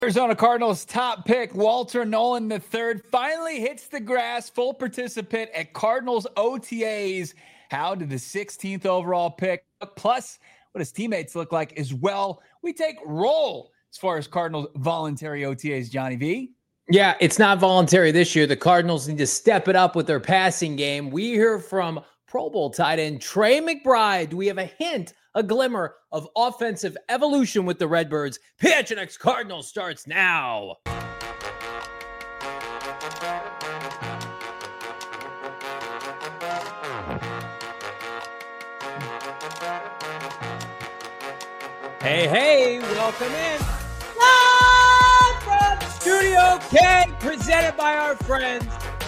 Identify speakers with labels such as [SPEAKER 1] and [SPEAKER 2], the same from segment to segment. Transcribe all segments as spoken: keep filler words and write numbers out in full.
[SPEAKER 1] Arizona Cardinals top pick Walter Nolan the third finally hits the grass, full participant at Cardinals O T As. How did the sixteenth overall pick, plus what his teammates look like as well? We take roll as far as Cardinals voluntary O T As, Johnny V.
[SPEAKER 2] Yeah, it's not voluntary this year. The Cardinals need to step it up with their passing game. We hear from Pro Bowl tight end Trey McBride. Do we have a hint, a glimmer of offensive evolution with the Redbirds? P H N X Cardinals starts now. Hey, hey, welcome in. Live from Studio K, presented by our friends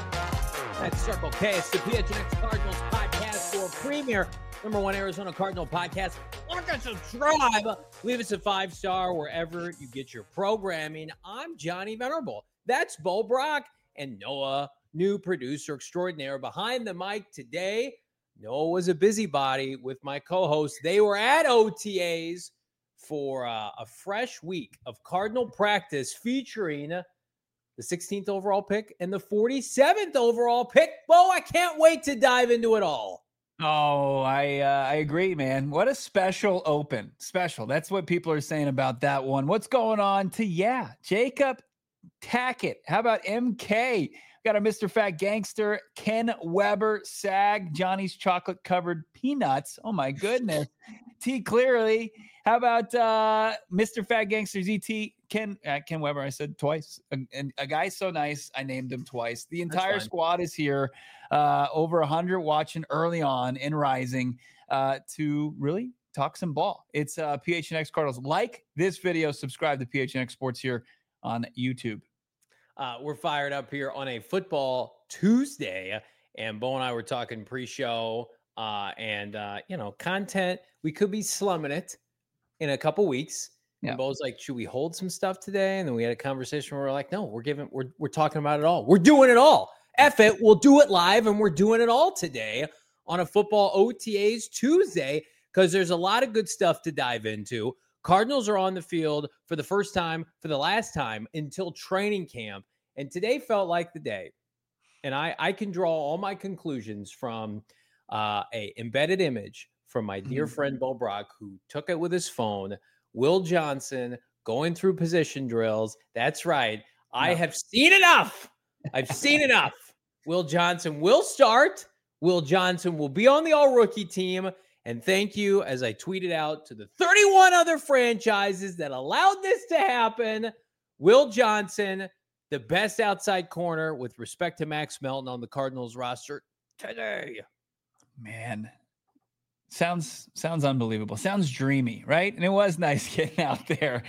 [SPEAKER 2] at Circle K. It's the P H N X Cardinals podcast for premier number one Arizona Cardinal podcast. Like and subscribe. Leave us a five-star wherever you get your programming. I'm Johnny Venerable. That's Bo Brock and Noah, new producer extraordinaire behind the mic today. Noah was a busybody with my co-host. They were at O T As for uh, a fresh week of Cardinal practice featuring the sixteenth overall pick and the forty-seventh overall pick. Bo, I can't wait to dive into it all.
[SPEAKER 1] Oh, I uh, I agree, man. What a special open. Special. That's what people are saying about that one. What's going on to, yeah, Jacob Tackett. How about M K? Got our Mister Fat Gangster, Ken Weber, Sag, Johnny's chocolate-covered peanuts. Oh, my goodness. T. Clearly. How about uh, Mister Fat Gangster, Z T, Ken uh, Ken Weber? I said twice. A, a guy so nice, I named him twice. The entire squad is here, uh, over one hundred watching early on and rising uh, to really talk some ball. It's uh, P H N X Cardinals. Like this video, subscribe to P H N X Sports here on YouTube.
[SPEAKER 2] Uh, we're fired up here on a football Tuesday, and Bo and I were talking pre-show, uh, and uh, you know, content. We could be slumming it in a couple weeks. Yeah. And Bo's like, should we hold some stuff today? And then we had a conversation where we're like, no, we're giving, we're we're talking about it all. We're doing it all. F it, we'll do it live, and we're doing it all today on a football O T As Tuesday because there's a lot of good stuff to dive into. Cardinals are on the field for the first time, for the last time until training camp. And today felt like the day. And I, I can draw all my conclusions from uh, a embedded image from my dear mm-hmm. friend Bo Brock, who took it with his phone. Will Johnson going through position drills. That's right. No. I have seen enough. I've seen enough. Will Johnson will start. Will Johnson will be on the all-rookie team. And thank you, as I tweeted out to the thirty-one other franchises that allowed this to happen. Will Johnson, the best outside corner with respect to Max Melton on the Cardinals roster today.
[SPEAKER 1] Man, sounds sounds unbelievable. Sounds dreamy, right? And it was nice getting out there.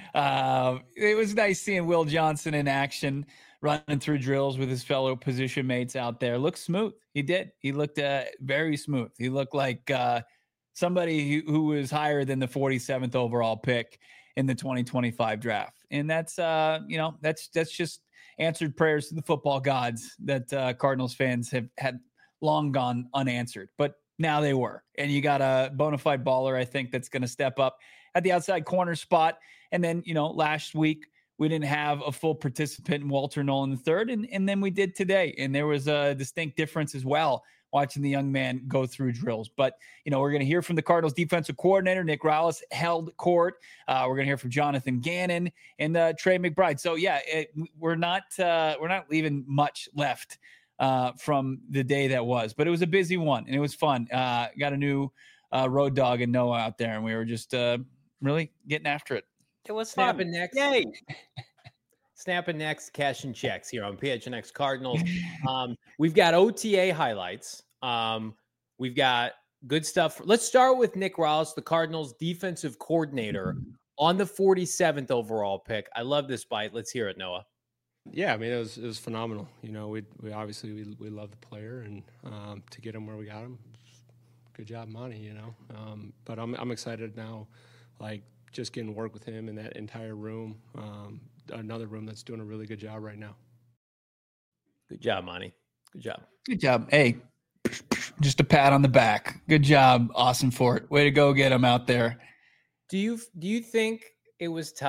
[SPEAKER 1] Uh, it was nice seeing Will Johnson in action, running through drills with his fellow position mates out there. Looked smooth. He did. He looked uh, very smooth. He looked like uh, somebody who, who was higher than the forty-seventh overall pick in the twenty twenty-five draft. And that's, uh, you know, that's that's just answered prayers to the football gods that uh, Cardinals fans have had long gone unanswered. But now they were. And you got a bona fide baller, I think, that's going to step up at the outside corner spot. And then, you know, last week, we didn't have a full participant in Walter Nolan the third, and, and then we did today. And there was a distinct difference as well watching the young man go through drills. But, you know, we're going to hear from the Cardinals defensive coordinator. Nick Rallis held court. Uh, we're going to hear from Jonathan Gannon and uh, Trey McBride. So, yeah, it, we're not uh, we're not leaving much left uh, from the day that was. But it was a busy one, and it was fun. Uh, got a new uh, road dog and Noah out there, and we were just uh, really getting after it.
[SPEAKER 2] It was snapping next. Yay. Snapping next, cashing checks here on P H N X Cardinals. Um, we've got O T A highlights. Um, we've got good stuff. Let's start with Nick Rallis, the Cardinals defensive coordinator, on the forty-seventh overall pick. I love this bite. Let's hear it, Noah.
[SPEAKER 3] Yeah, I mean, it was it was phenomenal. You know, we we obviously we we love the player, and um, to get him where we got him, good job, Monty. You know, um, but I'm I'm excited now, like. Just getting to work with him in that entire room, um, another room that's doing a really good job right now.
[SPEAKER 2] Good job, Monty. Good job.
[SPEAKER 1] Good job. Hey, just a pat on the back. Good job, Austin Fort. Way to go get him out there.
[SPEAKER 2] Do you do you think it was tough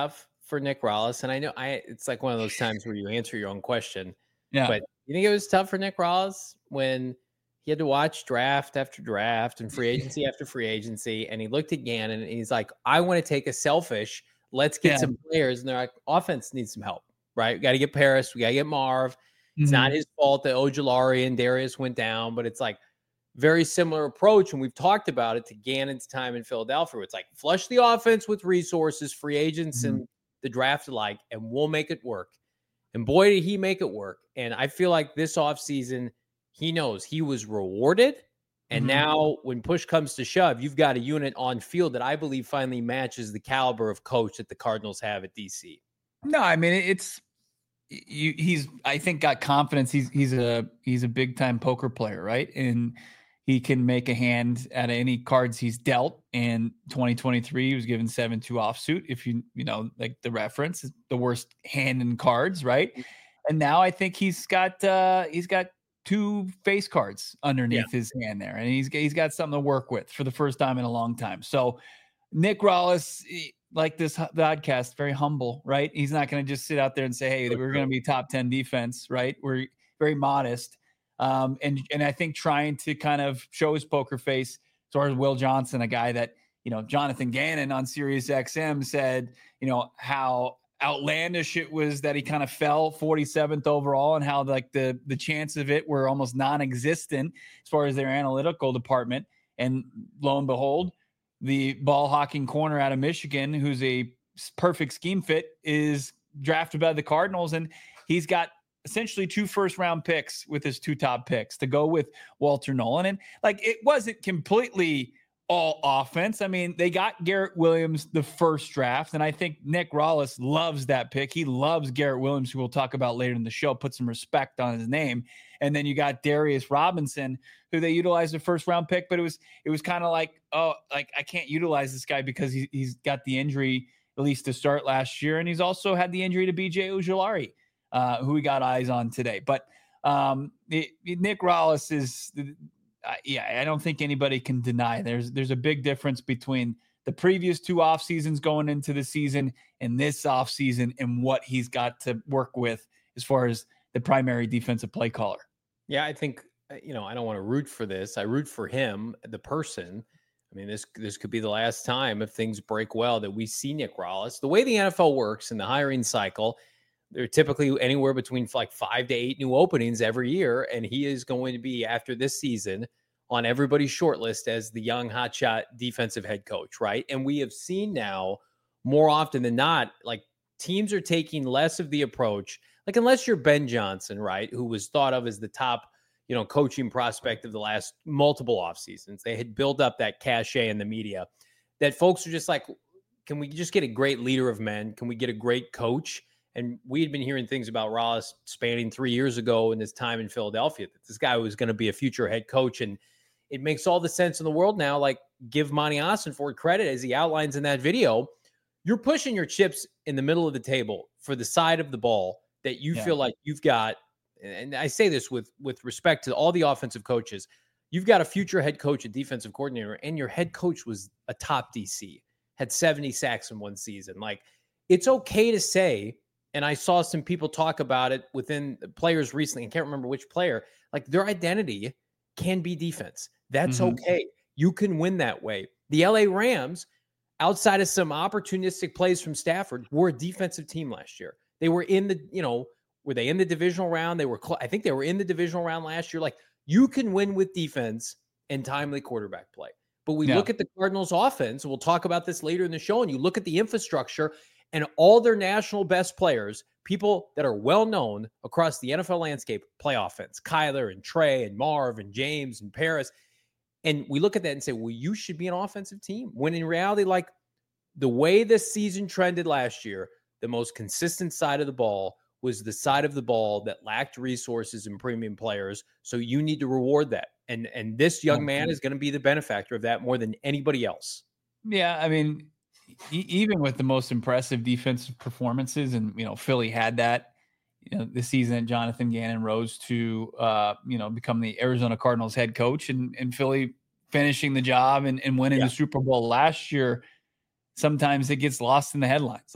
[SPEAKER 2] for Nick Rallis? And I know I it's like one of those times where you answer your own question.
[SPEAKER 1] Yeah.
[SPEAKER 2] But you think it was tough for Nick Rallis when he had to watch draft after draft and free agency after free agency, and he looked at Gannon and he's like, I want to take a selfish, let's get
[SPEAKER 1] Yeah.
[SPEAKER 2] some players. And they're like, offense needs some help, right? We got to get Paris. We got to get Marv. It's
[SPEAKER 1] Mhm.
[SPEAKER 2] not his fault that Ojulari and Darius went down, but it's like very similar approach. And we've talked about it to Gannon's time in Philadelphia. It's like flush the offense with resources, free agents,
[SPEAKER 1] Mhm.
[SPEAKER 2] and the draft alike, and we'll make it work. And boy, did he make it work. And I feel like this offseason, he knows he was rewarded. And
[SPEAKER 1] Mhm.
[SPEAKER 2] now when push comes to shove, you've got a unit on field that I believe finally matches the caliber of coach that the Cardinals have at D C.
[SPEAKER 1] No, I mean, it's you, he's, I think, got confidence. He's, he's a, he's a big time poker player, right? And he can make a hand at any cards he's dealt. And twenty twenty-three, he was given seven two offsuit. If you, you know, like the reference is the worst hand in cards, right? And now I think he's got, uh, he's got two face cards underneath yeah. his hand there. And he's, he's got something to work with for the first time in a long time. So Nick Rallis, like this podcast, very humble, right? He's not going to just sit out there and say, hey, we're going to be top ten defense, right? We're very modest. Um, and, and I think trying to kind of show his poker face as far as Will Johnson, a guy that, you know, Jonathan Gannon on Sirius X M said, you know, how outlandish it was that he kind of fell forty-seventh overall and how like the, the chance of it were almost non-existent as far as their analytical department. And lo and behold, the ball hawking corner out of Michigan, who's a perfect scheme fit, is drafted by the Cardinals. And he's got essentially two first round picks with his two top picks to go with Walter Nolan. And like, it wasn't completely all offense. I mean, they got Garrett Williams the first draft. And I think Nick Rallis loves that pick. He loves Garrett Williams, who we'll talk about later in the show, put some respect on his name. And then you got Darius Robinson, who they utilized the first round pick, but it was, it was kind of like, oh, like I can't utilize this guy because he, he's got the injury, at least to start last year. And he's also had the injury to B J Ojulari, uh, who we got eyes on today. But um, it, it, Nick Rallis is, uh, yeah, I don't think anybody can deny there's, there's a big difference between the previous two off seasons going into the season and this off season and what he's got to work with as far as the primary defensive play caller.
[SPEAKER 2] Yeah, I think, you know, I don't want to root for this. I root for him, the person. I mean, this this could be the last time, if things break well, that we see Nick Rallis. The way the N F L works in the hiring cycle, there are typically anywhere between like five to eight new openings every year, and he is going to be, after this season, on everybody's short list as the young hotshot defensive head coach, right? And we have seen now more often than not, like teams are taking less of the approach, like unless you're Ben Johnson, right, who was thought of as the top, you know, coaching prospect of the last multiple off seasons. They had built up that cachet in the media that folks are just like, can we just get a great leader of men? Can we get a great coach? And we had been hearing things about Rallis spanning three years ago in his time in Philadelphia, that this guy was going to be a future head coach. And it makes all the sense in the world now. Like, give Monty Ossenfort credit, as he outlines in that video. You're pushing your chips in the middle of the table for the side of the ball that you yeah. feel like you've got. And I say this with, with respect to all the offensive coaches. You've got a future head coach, a defensive coordinator, and your head coach was a top D C, had seventy sacks in one season. Like, it's okay to say, and I saw some people talk about it within players recently, I can't remember which player, like their identity can be defense. That's mm-hmm. okay. You can win that way. The L A Rams, outside of some opportunistic plays from Stafford, were a defensive team last year. They were in the, you know, were they in the divisional round? They were, cl- I think they were in the divisional round last year. Like, you can win with defense and timely quarterback play. But we yeah. look at the Cardinals offense, and we'll talk about this later in the show, and you look at the infrastructure and all their national best players, people that are well-known across the N F L landscape, play offense. Kyler and Trey and Marv and James and Paris. And we look at that and say, well, you should be an offensive team. When in reality, like the way this season trended last year, the most consistent side of the ball was the side of the ball that lacked resources and premium players. So you need to reward that. And and this young man is going to be the benefactor of that more than anybody else.
[SPEAKER 1] Yeah, I mean, e- even with the most impressive defensive performances, and, you know, Philly had that, you know, this season that Jonathan Gannon rose to, uh, you know, become the Arizona Cardinals head coach, and, and Philly finishing the job and, and winning yeah. the Super Bowl last year. Sometimes it gets lost in the headlines. Like,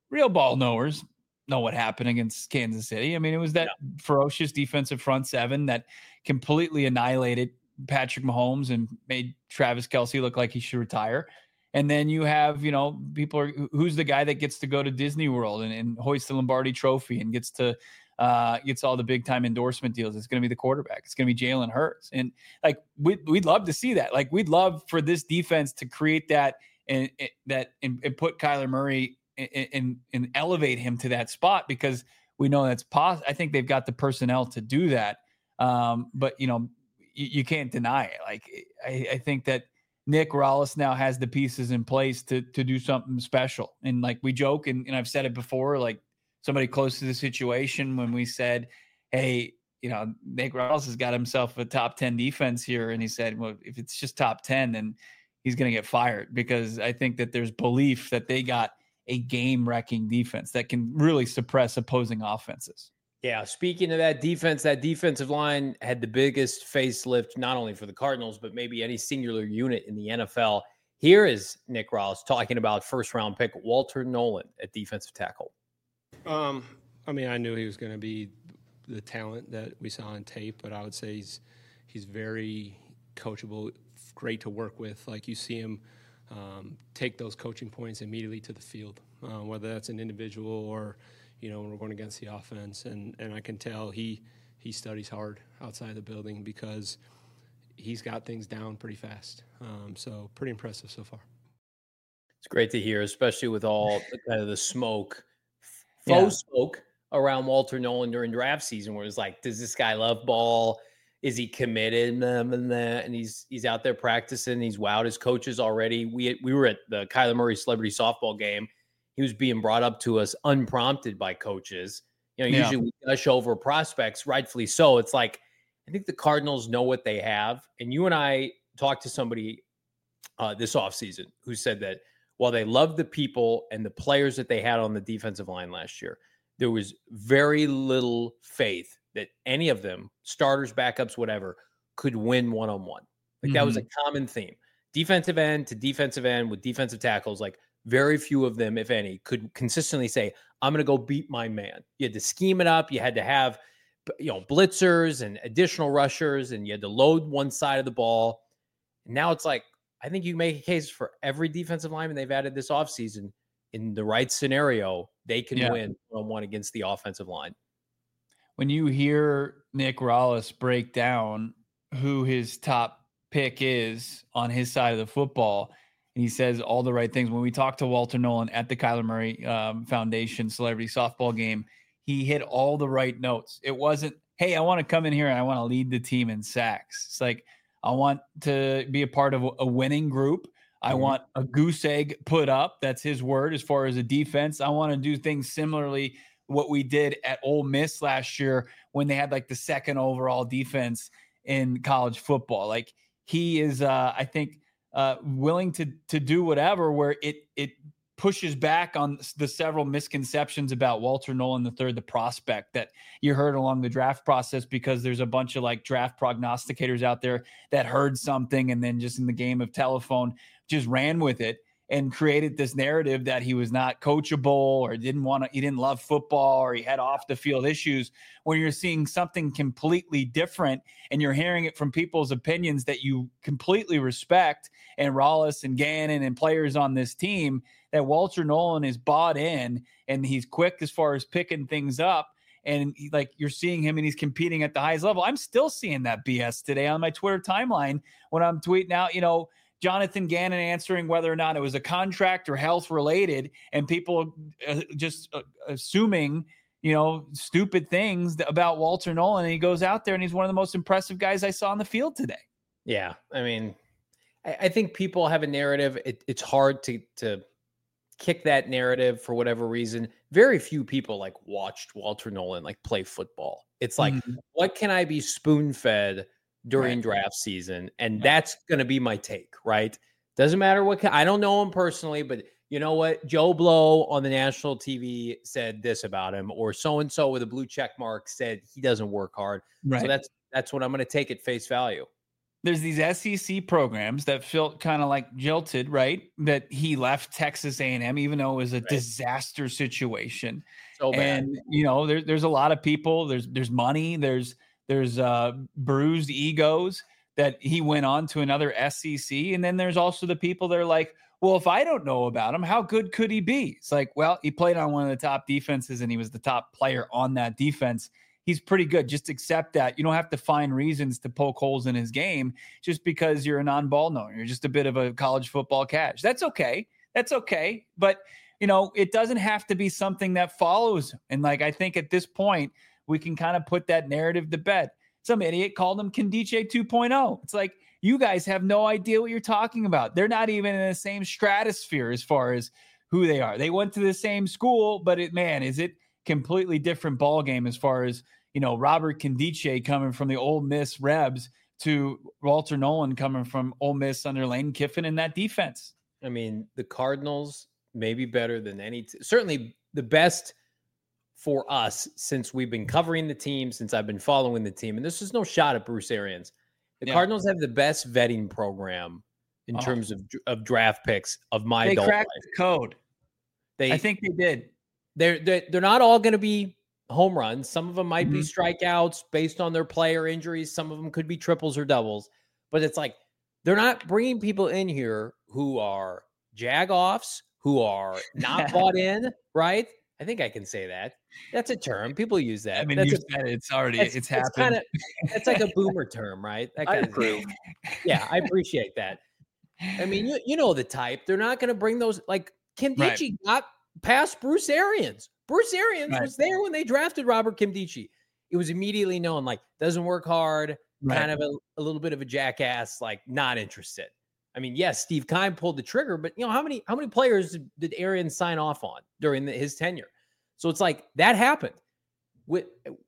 [SPEAKER 1] real ball knowers know what happened against Kansas City. I mean, it was that yeah. ferocious defensive front seven that completely annihilated Patrick Mahomes and made Travis Kelce look like he should retire. And then you have, you know, people are, who's the guy that gets to go to Disney World and, and hoist the Lombardi Trophy and gets to, uh, gets all the big time endorsement deals. It's going to be the quarterback. It's going to be Jalen Hurts. And like, we'd, we'd love to see that. Like, we'd love for this defense to create that and, and that, and, and put Kyler Murray and, and, and elevate him to that spot, because we know that's possible. I think they've got the personnel to do that. Um, but you know, you, you can't deny it. Like, I, I think that Nick Rallis now has the pieces in place to, to do something special. And like we joke, and, and I've said it before, like, somebody close to the situation when we said, hey, you know, Nick Rallis has got himself a top ten defense here. And he said, well, if it's just top ten, then he's going to get fired, because I think that there's belief that they got a game wrecking defense that can really suppress opposing offenses.
[SPEAKER 2] Yeah. Speaking of that defense, that defensive line had the biggest facelift, not only for the Cardinals, but maybe any singular unit in the N F L. Here is Nick Rallis talking about first round pick Walter Nolen at defensive tackle.
[SPEAKER 3] Um, I mean, I knew he was going to be the talent that we saw on tape, but I would say he's he's very coachable, great to work with. Like, you see him um, take those coaching points immediately to the field, uh, whether that's an individual or, you know, when we're going against the offense. And, and I can tell he he studies hard outside the building, because he's got things down pretty fast. Um, so pretty impressive so far.
[SPEAKER 2] It's great to hear, especially with all the, kind of the smoke. Faux yeah. smoke around Walter Nolen during draft season, where it's like, does this guy love ball? Is he committed? And he's he's out there practicing. He's wowed his coaches already. We we were at the Kyler Murray celebrity softball game. He was being brought up to us unprompted by coaches. You know, usually yeah. we gush over prospects, rightfully so. It's like, I think the Cardinals know what they have. And you and I talked to somebody uh, this offseason who said that while they loved the people and the players that they had on the defensive line last year, there was very little faith that any of them, starters, backups, whatever, could win one-on-one. Like, mm-hmm. that was a common theme. Defensive end to defensive end with defensive tackles, like, very few of them, if any, could consistently say, I'm going to go beat my man. You had to scheme it up. You had to have, you know, blitzers and additional rushers, and you had to load one side of the ball. And now it's like, I think you can make a case for every defensive lineman they've added this offseason. In the right scenario, they can yeah. win one-on-one against the offensive line.
[SPEAKER 1] When you hear Nick Rallis break down who his top pick is on his side of the football, and he says all the right things. When we talked to Walter Nolen at the Kyler Murray um, Foundation Celebrity Softball game, he hit all the right notes. It wasn't, hey, I want to come in here and I want to lead the team in sacks. It's like, I want to be a part of a winning group. I mm-hmm. want a goose egg put up. That's his word as far as a defense. I want to do things similarly what we did at Ole Miss last year when they had like the second overall defense in college football. Like, he is, uh, I think, uh, willing to to do whatever where it it pushes back on the several misconceptions about Walter Nolen the third, the prospect that you heard along the draft process, because there's a bunch of like draft prognosticators out there that heard something and then just in the game of telephone just ran with it and created this narrative that he was not coachable or didn't want to, he didn't love football or he had off the field issues, when you're seeing something completely different and you're hearing it from people's opinions that you completely respect, and Rallis and Gannon and players on this team, that Walter Nolen is bought in and he's quick as far as picking things up. And he, like, you're seeing him and he's competing at the highest level. I'm still seeing that B S today on my Twitter timeline when I'm tweeting out, you know, Jonathan Gannon answering whether or not it was a contract or health related, and people uh, just uh, assuming, you know, stupid things about Walter Nolen. And he goes out there and he's one of the most impressive guys I saw on the field today.
[SPEAKER 2] Yeah. I mean, I, I think people have a narrative. It, it's hard to, to kick that narrative for whatever reason. Very few people like watched Walter Nolen like play football. It's like, mm-hmm. what can I be spoon fed during right. draft season? And yeah. that's going to be my take, right? Doesn't matter what, I don't know him personally, but you know what? Joe Blow on the national T V said this about him, or so-and-so with a blue check mark said he doesn't work hard. Right. So that's, that's what I'm going to take at face value.
[SPEAKER 1] there's these S E C programs that felt kind of like jilted, right? That he left Texas A and M, even though it was a
[SPEAKER 2] Right.
[SPEAKER 1] disaster situation.
[SPEAKER 2] So bad.
[SPEAKER 1] And, you know, there, there's a lot of people, there's, there's money, there's, there's uh, bruised egos that he went on to another S E C. And then there's also the people that are like, well, if I don't know about him, how good could he be? It's like, well, he played on one of the top defenses and he was the top player on that defense. He's pretty good. Just accept that. You don't have to find reasons to poke holes in his game just because you're a non-ball knower. You're just a bit of a college football catch. That's okay. That's okay. But, you know, it doesn't have to be something that follows. And like, I think at this point, we can kind of put that narrative to bed. Some idiot called him Kendiche two point oh. It's like, you guys have no idea what you're talking about. They're not even in the same stratosphere as far as who they are. They went to the same school, but it, man, is it completely different ball game as far as, you know, Robert Kendiche coming from the Ole Miss Rebs to Walter Nolan coming from Ole Miss under Lane Kiffin in that defense.
[SPEAKER 2] I mean, the Cardinals may be better than any, t- certainly the best for us since we've been covering the team, since I've been following the team. And this is no shot at Bruce Arians. The
[SPEAKER 1] Yeah.
[SPEAKER 2] Cardinals have the best vetting program in
[SPEAKER 1] Oh.
[SPEAKER 2] terms of of draft picks of my
[SPEAKER 1] They
[SPEAKER 2] adult
[SPEAKER 1] cracked
[SPEAKER 2] life.
[SPEAKER 1] the code.
[SPEAKER 2] They,
[SPEAKER 1] I think they did.
[SPEAKER 2] they're, they're they're not all going to be home runs. Some of them might be
[SPEAKER 1] Mhm.
[SPEAKER 2] strikeouts based on their player injuries. Some of them could be triples or doubles. But it's like they're not bringing people in here who are jag-offs, who are not bought in, right? I think I can say that. That's a term. People use that.
[SPEAKER 1] I mean,
[SPEAKER 2] That's
[SPEAKER 1] you
[SPEAKER 2] a,
[SPEAKER 1] said it. It's already,
[SPEAKER 2] it's,
[SPEAKER 1] it's
[SPEAKER 2] it's
[SPEAKER 1] happened.
[SPEAKER 2] kind of it's like a boomer term, right? That
[SPEAKER 4] I
[SPEAKER 2] kind of
[SPEAKER 4] approve.
[SPEAKER 2] Yeah, I appreciate that. I mean, you, you know the type. They're not going to bring those. Like Kim
[SPEAKER 1] Right.
[SPEAKER 2] Dichie got past Bruce Arians. Bruce Arians
[SPEAKER 1] Right.
[SPEAKER 2] was there when they drafted Robert Kim Dichie. It was immediately known, like, doesn't work hard,
[SPEAKER 1] Right.
[SPEAKER 2] kind of a, a little bit of a jackass, like not interested. I mean, yes, Steve Keim pulled the trigger, but you know how many how many players did, did Arians sign off on during the, his tenure? So it's like that happened. With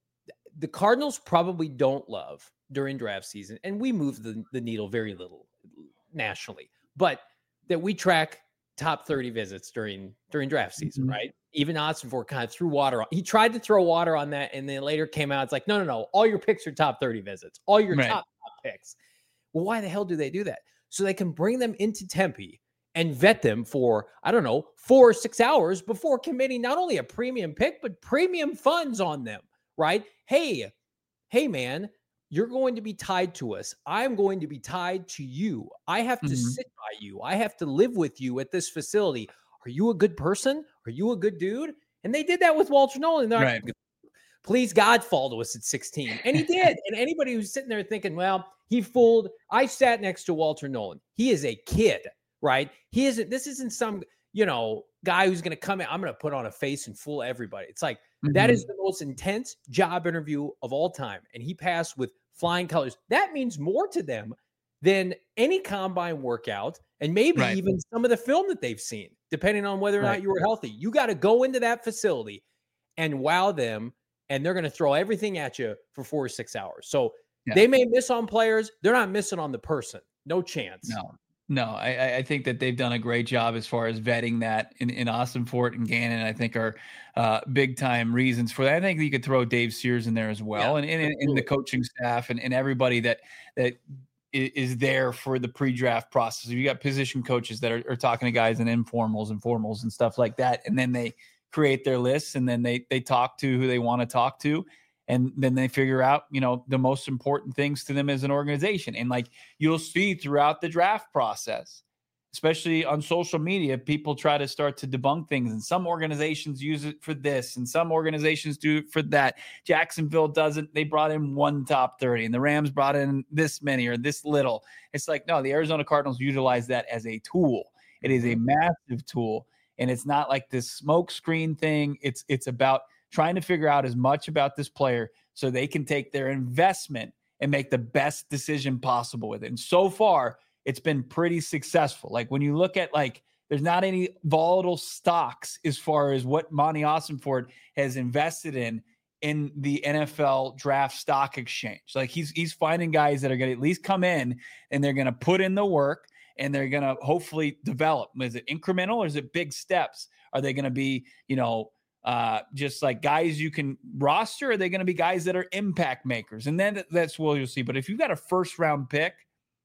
[SPEAKER 2] the Cardinals probably don't love during draft season, and we move the, the needle very little nationally, but that we track top thirty visits during during draft season,
[SPEAKER 1] Mhm.
[SPEAKER 2] right? Even Ossenfort kind of threw water on. He tried to throw water on that, and then later came out. It's like, no, no, no. All your picks are top thirty visits. All your
[SPEAKER 1] Right.
[SPEAKER 2] top top picks. Well, why the hell do they do that? So they can bring them into Tempe and vet them for, I don't know, four or six hours before committing not only a premium pick, but premium funds on them, right? Hey, hey, man, you're going to be tied to us. I'm going to be tied to you. I have to
[SPEAKER 1] Mhm.
[SPEAKER 2] sit by you. I have to live with you at this facility. Are you a good person? Are you a good dude? And they did that with Walter Nolan. They're like,
[SPEAKER 1] Right.
[SPEAKER 2] please God fall to us at sixteen. And he did. And anybody who's sitting there thinking, well, he fooled. I sat next to Walter Nolan. He is a kid, right? He isn't, this isn't some, you know, guy who's going to come in. I'm going to put on a face and fool everybody. It's like, that
[SPEAKER 1] Mhm.
[SPEAKER 2] is the most intense job interview of all time. And he passed with flying colors. That means more to them than any combine workout and maybe
[SPEAKER 1] Right.
[SPEAKER 2] even some of the film that they've seen, depending on whether or
[SPEAKER 1] Right.
[SPEAKER 2] not you were healthy. You got to go into that facility and wow them, and they're going to throw everything at you for four or six hours. So
[SPEAKER 1] Yeah.
[SPEAKER 2] they may miss on players. They're not missing on the person. No chance.
[SPEAKER 1] No, no, I, I- I think that they've done a great job as far as vetting that in, in Ossenfort and Gannon, I think are uh, big time reasons for that. I think you could throw Dave Sears in there as well.
[SPEAKER 2] Yeah,
[SPEAKER 1] and, and, and the
[SPEAKER 2] absolutely.
[SPEAKER 1] coaching staff and, and everybody that, that i- is there for the pre-draft process. You got position coaches that are, are talking to guys in informals and formals and stuff like that. And then they create their lists and then they, they talk to who they want to talk to. And then they figure out, you know, the most important things to them as an organization. And like you'll see throughout the draft process, especially on social media, people try to start to debunk things. And some organizations use it for this and some organizations do it for that. Jacksonville doesn't. They brought in one top thirty and the Rams brought in this many or this little. It's like, no, the Arizona Cardinals utilize that as a tool. It is a massive tool. And it's not like this smoke screen thing. It's, it's about trying to figure out as much about this player so they can take their investment and make the best decision possible with it. And so far, it's been pretty successful. Like when you look at like, there's not any volatile stocks as far as what Monty Ossenfort has invested in in the N F L draft stock exchange. Like he's he's finding guys that are going to at least come in and they're going to put in the work and they're going to hopefully develop. Is it incremental or is it big steps? Are they going to be, you know, uh, just like guys you can roster? Or are they going to be guys that are impact makers? And then that's what you'll see. But if you've got a first round pick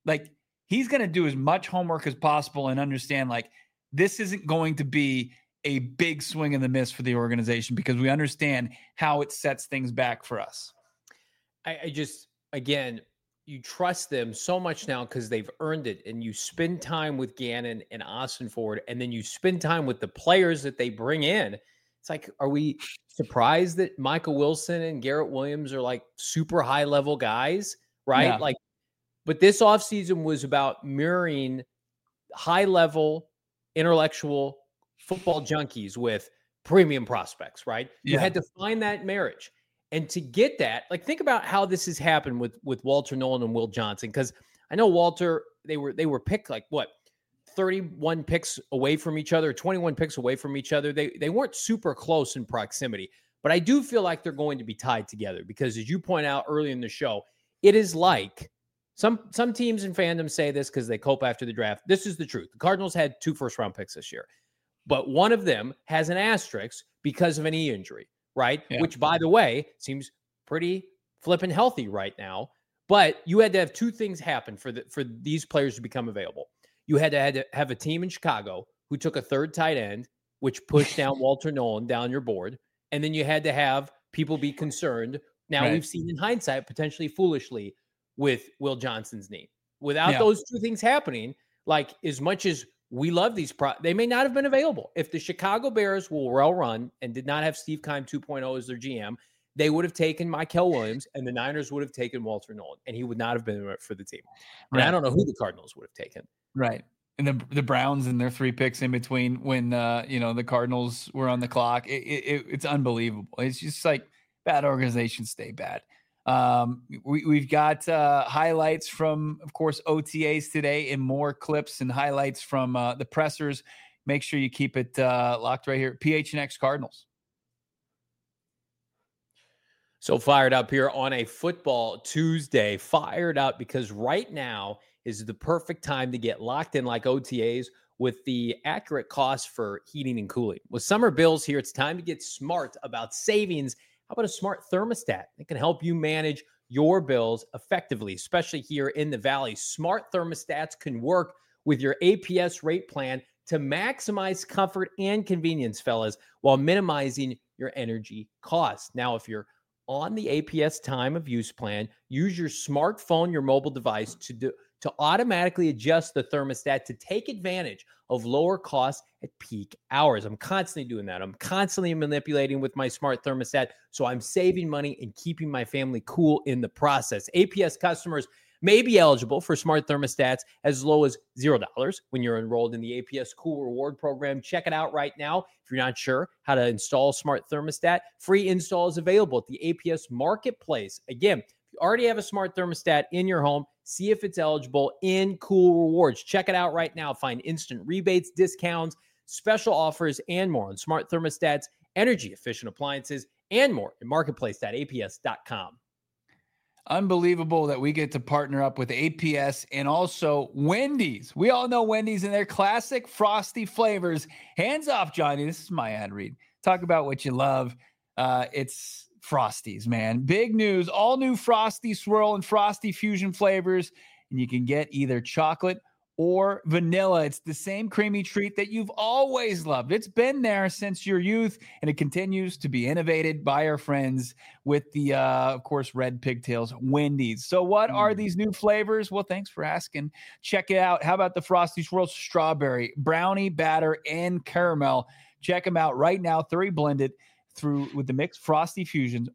[SPEAKER 1] like he's going to do as much homework as possible and understand like this isn't going to be a big swing and the miss for the organization because we understand how it sets things back for us.
[SPEAKER 2] I, I just, again, you trust them so much now because they've earned it, and you spend time with Gannon and Austin Ford, and then you spend time with the players that they bring in. It's like, are we surprised that Michael Wilson and Garrett Williams are like super high level guys, right?
[SPEAKER 1] Yeah.
[SPEAKER 2] Like, but this offseason was about mirroring high level intellectual football junkies with premium prospects, right? You
[SPEAKER 1] Yeah.
[SPEAKER 2] had to find that marriage. And to get that, like, think about how this has happened with with Walter Nolan and Will Johnson. Because I know Walter, they were they were picked like what, thirty-one picks away from each other, twenty-one picks away from each other. They they weren't super close in proximity, but I do feel like they're going to be tied together because, as you point out early in the show, it is like some some teams in fandom say this because they cope after the draft. This is the truth. The Cardinals had two first round picks this year, but one of them has an asterisk because of an knee injury. Right?
[SPEAKER 1] Yeah.
[SPEAKER 2] Which, by the way, seems pretty flippin' healthy right now. But you had to have two things happen for the for these players to become available. You had to, had to have a team in Chicago who took a third tight end, which pushed down Walter Nolan down your board. And then you had to have people be concerned. Now,
[SPEAKER 1] right.
[SPEAKER 2] we've seen in hindsight, potentially foolishly, with Will Johnson's knee. Without
[SPEAKER 1] yeah.
[SPEAKER 2] those two things happening, like as much as we love these, pro- they may not have been available. If the Chicago Bears were well run and did not have Steve Keim two point oh as their G M, they would have taken Michael Williams, and the Niners would have taken Walter Nolan, and he would not have been for the team. And
[SPEAKER 1] right.
[SPEAKER 2] I don't know who the Cardinals would have taken.
[SPEAKER 1] Right. And the the Browns and their three picks in between when uh, you know the Cardinals were on the clock, it, it, it's unbelievable. It's just like bad organizations stay bad. Um, we, we've got uh, highlights from, of course, O T As today and more clips and highlights from uh, the pressers. Make sure you keep it uh, locked right here. P H N X Cardinals.
[SPEAKER 2] So fired up here on a football Tuesday, fired up because right now is the perfect time to get locked in like O T As with the accurate cost for heating and cooling. With summer bills here, it's time to get smart about savings. How about a smart thermostat? It can help you manage your bills effectively, especially here in the Valley. Smart thermostats can work with your A P S rate plan to maximize comfort and convenience, fellas, while minimizing your energy costs. Now, if you're on the A P S time of use plan, use your smartphone, your mobile device to do, to automatically adjust the thermostat to take advantage of lower costs at peak hours. I'm constantly doing that. I'm constantly manipulating with my smart thermostat, so I'm saving money and keeping my family cool in the process. A P S customers may be eligible for smart thermostats as low as zero dollars when you're enrolled in the A P S Cool Reward Program. Check it out right now. If you're not sure how to install a smart thermostat, free install is available at the A P S Marketplace. Again, if you already have a smart thermostat in your home, see if it's eligible in Cool Rewards. Check it out right now. Find instant rebates, discounts, special offers, and more on smart thermostats, energy-efficient appliances, and more at marketplace dot a p s dot com.
[SPEAKER 1] Unbelievable that we get to partner up with A P S and also Wendy's. We all know Wendy's and their classic frosty flavors. Hands off, Johnny. This is my ad read. Talk about what you love. Uh, it's Frosties, man. Big news. All new Frosty Swirl and Frosty Fusion flavors. And you can get either chocolate or vanilla. It's the same creamy treat that you've always loved. It's been there since your youth, and it continues to be innovated by our friends with the, uh, of course, Red Pigtails Wendy's. So what mm. are these new flavors? Well, thanks for asking. Check it out. How about the Frosty Swirl strawberry, brownie, batter, and caramel? Check them out right now. Three blended through with the mixed Frosty Fusions,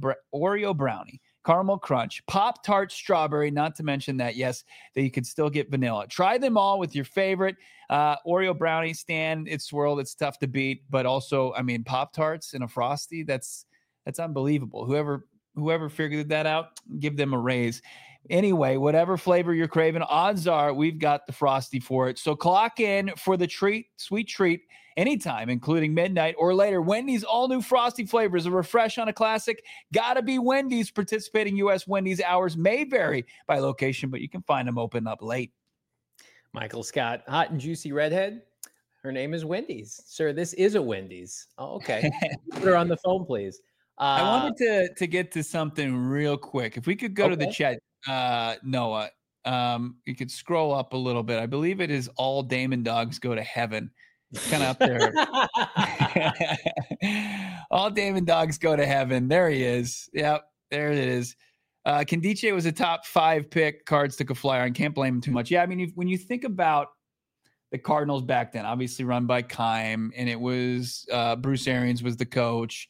[SPEAKER 1] Oreo brownie, caramel crunch, Pop-Tart strawberry, not to mention that, yes, that you can still get vanilla. Try them all with your favorite uh, Oreo brownie stand. It's swirled. It's tough to beat, but also, I mean, Pop-Tarts and a Frosty, that's that's unbelievable. Whoever whoever figured that out, give them a raise. Anyway, whatever flavor you're craving, odds are we've got the Frosty for it. So clock in for the treat, sweet treat, anytime, including midnight or later. Wendy's all-new Frosty flavors, a refresh on a classic. Gotta be Wendy's. Participating U S Wendy's hours may vary by location, but you can find them open up late.
[SPEAKER 2] Michael Scott, hot and juicy redhead. Her name is Wendy's. Sir, this is a Wendy's. Oh, okay. Put her on the phone, please. Uh,
[SPEAKER 1] I wanted to, to get to something real quick. If we could go okay. to the chat, uh, Noah. Um, you could scroll up a little bit. I believe it is All Damon Dogs Go to Heaven. Kind of up there. All Damon Dogs Go to Heaven. There he is. Yep, there it is. Uh, Nkemdiche was a top five pick. Cards took a flyer and can't blame him too much. Yeah, I mean, if, when you think about the Cardinals back then, obviously run by Keim, and it was uh, Bruce Arians was the coach,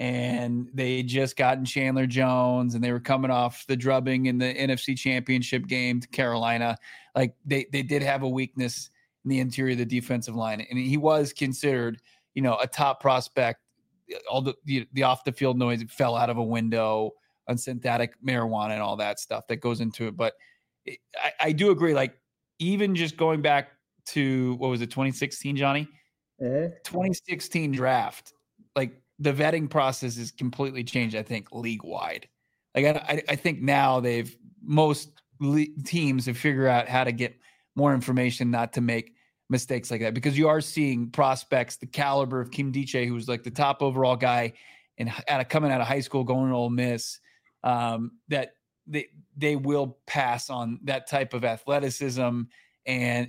[SPEAKER 1] and they just gotten Chandler Jones, and they were coming off the drubbing in the N F C Championship game to Carolina. Like they they did have a weakness in the interior of the defensive line, and he was considered, you know, a top prospect. All the the, the off the field noise, it fell out of a window on synthetic marijuana and all that stuff that goes into it. But it, I, I do agree. Like even just going back to what was it, twenty sixteen, Johnny? Uh-huh. twenty sixteen draft. Like the vetting process is completely changed. I think league wide. Like I, I think now they've most le- teams have figured out how to get more information, not to make mistakes like that, because you are seeing prospects the caliber of Nkemdiche, who was like the top overall guy and out of coming out of high school, going to Ole Miss. Um, that they they will pass on that type of athleticism, and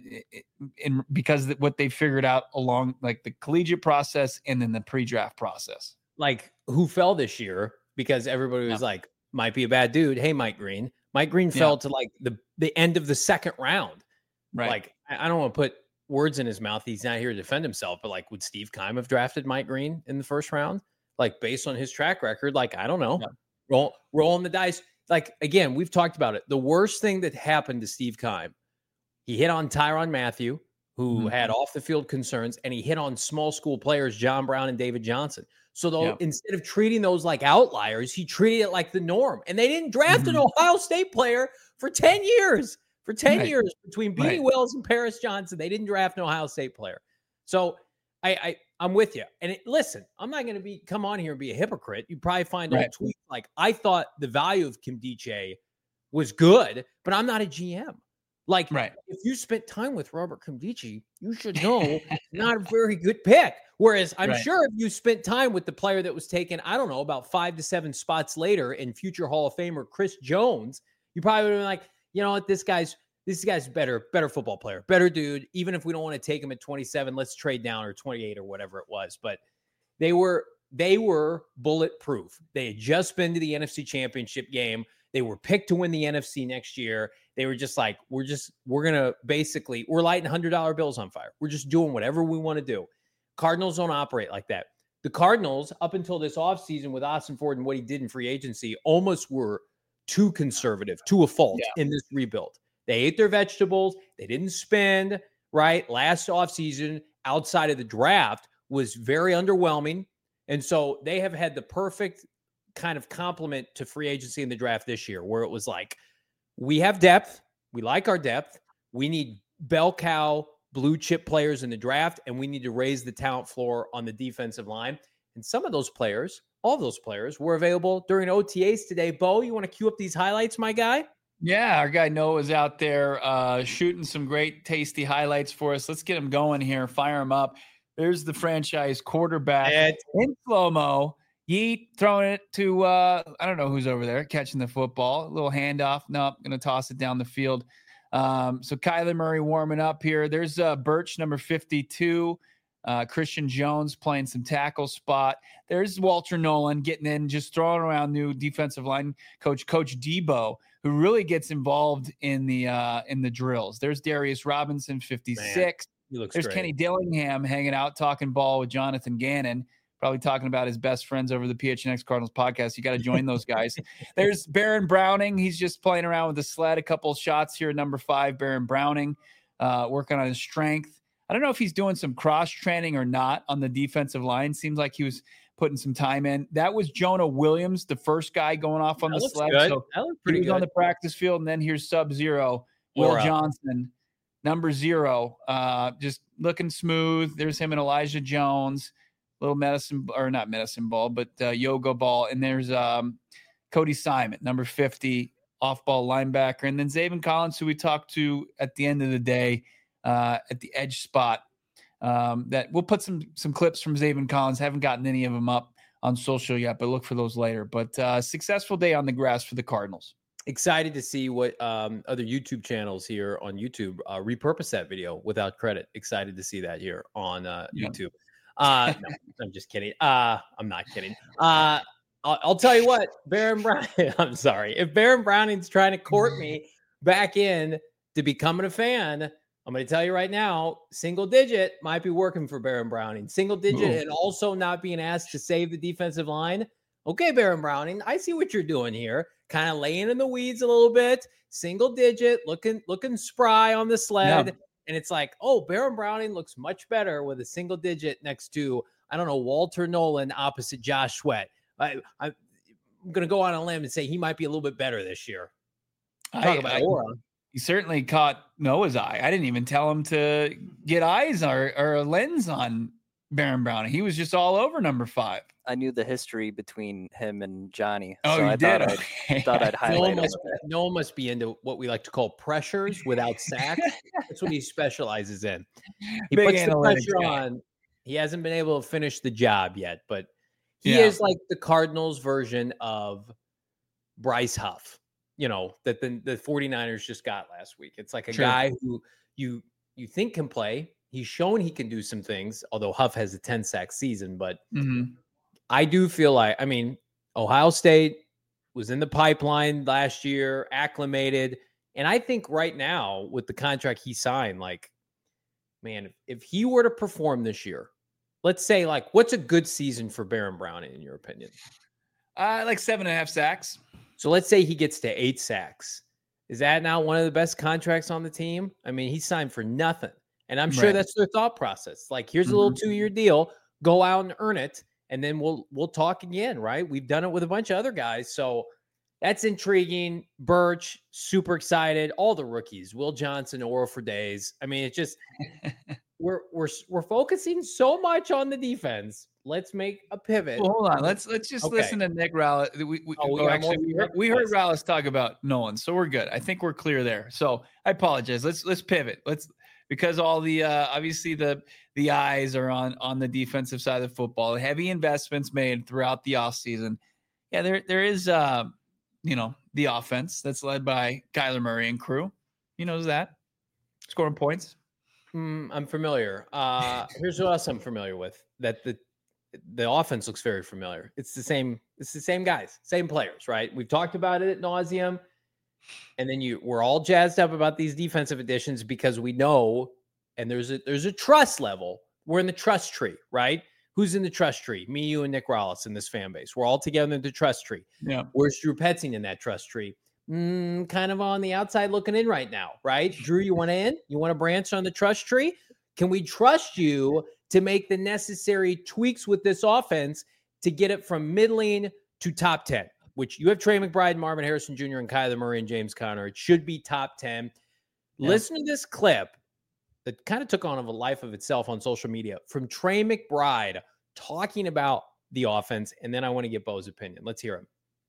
[SPEAKER 1] and because what they figured out along like the collegiate process and then the pre-draft process.
[SPEAKER 2] Like who fell this year because everybody was yeah. like, might be a bad dude. Hey, Mike Green. Mike Green fell yeah. to like the the end of the second round. Right. Like I don't want to put words in his mouth. He's not here to defend himself, but like, would Steve Keim have drafted Mike Green in the first round? Like based on his track record, like I don't know. Yeah. Roll, rolling the dice. Like, again, we've talked about it. The worst thing that happened to Steve Keim, he hit on Tyrann Mathieu, who mm-hmm. had off-the-field concerns, and he hit on small school players, John Brown and David Johnson. So though, yeah. instead of treating those like outliers, he treated it like the norm. And they didn't draft mm-hmm. an Ohio State player for ten years. For ten right. years, between Beanie right. Wells and Paris Johnson, they didn't draft an Ohio State player. So I, I I'm with you. And it, listen, I'm not going to be come on here and be a hypocrite. You probably find right. all tweets like I thought the value of Nkemdiche was good, but I'm not a G M. Like right. if you spent time with Robert Nkemdiche, you should know not a very good pick. Whereas I'm right. sure if you spent time with the player that was taken, I don't know, about five to seven spots later in future Hall of Famer Chris Jones, you probably would have been like, you know what, this guy's This guy's better, better football player, better dude. Even if we don't want to take him at twenty-seven, let's trade down, or twenty-eight or whatever it was. But they were they were bulletproof. They had just been to the N F C Championship game. They were picked to win the N F C next year. They were just like, we're just we're gonna basically we're lighting one hundred dollar bills on fire. We're just doing whatever we want to do. Cardinals don't operate like that. The Cardinals, up until this offseason with Austin Ford and what he did in free agency, almost were too conservative, to a fault yeah. in this rebuild. They ate their vegetables. They didn't spend, right? Last offseason, outside of the draft, was very underwhelming. And so they have had the perfect kind of complement to free agency in the draft this year, where it was like, we have depth. We like our depth. We need bell cow, blue chip players in the draft, and we need to raise the talent floor on the defensive line. And some of those players, all those players, were available during O T As today. Bo, you want to cue up these highlights, my guy?
[SPEAKER 1] Yeah, our guy Noah is out there uh, shooting some great, tasty highlights for us. Let's get him going here. Fire him up. There's the franchise quarterback Ed. in slow-mo. Yeet throwing it to, uh, I don't know who's over there catching the football. A little handoff. Nope, going to toss it down the field. Um, so Kyler Murray warming up here. There's uh, Birch, number fifty-two. Uh, Christian Jones playing some tackle spot. There's Walter Nolan getting in, just throwing around new defensive line coach, Coach Debo, who really gets involved in the uh, in the drills. There's Darius Robinson, fifty-six. Man, he looks There's great. Kenny Dillingham hanging out, talking ball with Jonathan Gannon, probably talking about his best friends over the P H N X Cardinals podcast. You got to join those guys. There's Baron Browning. He's just playing around with the sled. A couple of shots here, number five, Baron Browning, uh, working on his strength. I don't know if he's doing some cross training or not on the defensive line. Seems like he was putting some time in. That was Jonah Williams, the first guy going off on
[SPEAKER 2] that
[SPEAKER 1] the sled.
[SPEAKER 2] Good.
[SPEAKER 1] So
[SPEAKER 2] that pretty
[SPEAKER 1] he was
[SPEAKER 2] good.
[SPEAKER 1] on the practice field, and then here's Sub-Zero, Will
[SPEAKER 2] Or, uh,
[SPEAKER 1] Johnson, number zero, uh, just looking smooth. There's him and Elijah Jones, little medicine or not medicine ball, but uh, yoga ball. And there's um, Cody Simon, number fifty, off-ball linebacker, and then Zaven Collins, who we talked to at the end of the day. Uh, at the edge spot, um, that we'll put some some clips from Zaven Collins. Haven't gotten any of them up on social yet, but look for those later. But uh, successful day on the grass for the Cardinals.
[SPEAKER 2] excited to see what um, other YouTube channels here on YouTube uh, repurpose that video without credit. Excited to see that here on uh,
[SPEAKER 1] Yeah.
[SPEAKER 2] YouTube. Uh, no, I'm just kidding. Uh, I'm not kidding. Uh, I'll, I'll tell you what, Baron Brown. I'm sorry. If Baron Browning's trying to court me back in to becoming a fan, I'm going to tell you right now, single digit might be working for Baron Browning. Single digit
[SPEAKER 1] Ooh.
[SPEAKER 2] and also not being asked to save the defensive line. Okay, Baron Browning, I see what you're doing here. Kind of laying in the weeds a little bit. Single digit, looking looking spry on the sled.
[SPEAKER 1] Yeah.
[SPEAKER 2] And it's like, oh, Baron Browning looks much better with a single digit next to, I don't know, Walter Nolan opposite Josh Sweat. I, I'm going to go on a limb and say he might be a little bit better this year. Talk
[SPEAKER 1] I,
[SPEAKER 2] about
[SPEAKER 1] I,
[SPEAKER 2] aura.
[SPEAKER 1] He certainly caught Noah's eye. I didn't even tell him to get eyes or, or a lens on Baron Browning. He was just all over number five.
[SPEAKER 4] I knew the history between him and Johnny.
[SPEAKER 1] Oh,
[SPEAKER 4] so
[SPEAKER 1] you
[SPEAKER 4] I
[SPEAKER 1] did?
[SPEAKER 4] Thought I'd,
[SPEAKER 1] Okay.
[SPEAKER 4] thought I'd
[SPEAKER 2] No
[SPEAKER 4] highlight
[SPEAKER 2] one,
[SPEAKER 4] him.
[SPEAKER 2] must, no one must be into what we like to call pressures without sacks. That's what he specializes in. He
[SPEAKER 1] Big
[SPEAKER 2] puts the
[SPEAKER 1] analytics
[SPEAKER 2] pressure
[SPEAKER 1] guy.
[SPEAKER 2] on. He hasn't been able to finish the job yet, but he
[SPEAKER 1] Yeah.
[SPEAKER 2] is like the Cardinals version of Bryce Huff, you know, that the, the 49ers just got last week. It's like a
[SPEAKER 1] Sure.
[SPEAKER 2] guy who you you think can play. He's shown he can do some things, although Huff has a ten sack season, but
[SPEAKER 1] Mm-hmm.
[SPEAKER 2] I do feel like, I mean, Ohio State was in the pipeline last year, acclimated. And I think right now with the contract he signed, like, man, if, if he were to perform this year, let's say, like, what's a good season for Baron Browning, in your opinion?
[SPEAKER 1] Uh, like seven and a half sacks.
[SPEAKER 2] So let's say he gets to eight sacks. Is that now one of the best contracts on the team? I mean, he signed for nothing. And I'm sure
[SPEAKER 1] Right.
[SPEAKER 2] that's their thought process. Like, here's a little
[SPEAKER 1] Mhm.
[SPEAKER 2] two-year deal. Go out and earn it. And then we'll we'll talk again, right? We've done it with a bunch of other guys. So that's intriguing. Birch, super excited. All the rookies, Will Johnson, Oral for days. I mean, it's just we're we're we're focusing so much on the defense. Let's make a pivot.
[SPEAKER 1] Well, hold on. Let's let's just
[SPEAKER 2] Okay.
[SPEAKER 1] listen to Nick Rallis. We, we,
[SPEAKER 2] Oh, we
[SPEAKER 1] oh,
[SPEAKER 2] got
[SPEAKER 1] actually,
[SPEAKER 2] more-
[SPEAKER 1] we heard, we heard Rallis talk about Nolan, so we're good. I think we're clear there. So I apologize. Let's let's pivot. Let's because all the uh, obviously the the eyes are on on the defensive side of football. Heavy investments made throughout the offseason. Yeah, there there is uh, you know the offense that's led by Kyler Murray and crew. He knows that scoring points.
[SPEAKER 2] Mm, I'm familiar. Uh, here's what else I'm familiar with. That the the offense looks very familiar. It's the same. It's the same guys, same players, right? We've talked about it at nauseum, and then you we're all jazzed up about these defensive additions because we know, and there's a there's a trust level. We're in the trust tree, right? Who's in the trust tree? Me, you, and Nick Rallis in this fan base. We're all together in the trust tree.
[SPEAKER 1] Yeah.
[SPEAKER 2] Where's Drew Petzing in that trust tree? Mm, kind of on the outside looking in right now, right? Drew, you want to in? You want to branch on the trust tree? Can we trust you to make the necessary tweaks with this offense to get it from middling to top ten, which you have Trey McBride, Marvin Harrison Junior, and Kyler Murray and James Conner. It should be top ten.
[SPEAKER 1] Yeah.
[SPEAKER 2] Listen to this clip that kind of took on a life of itself on social media from Trey McBride talking about the offense. And then I want to get Bo's opinion. Let's hear him.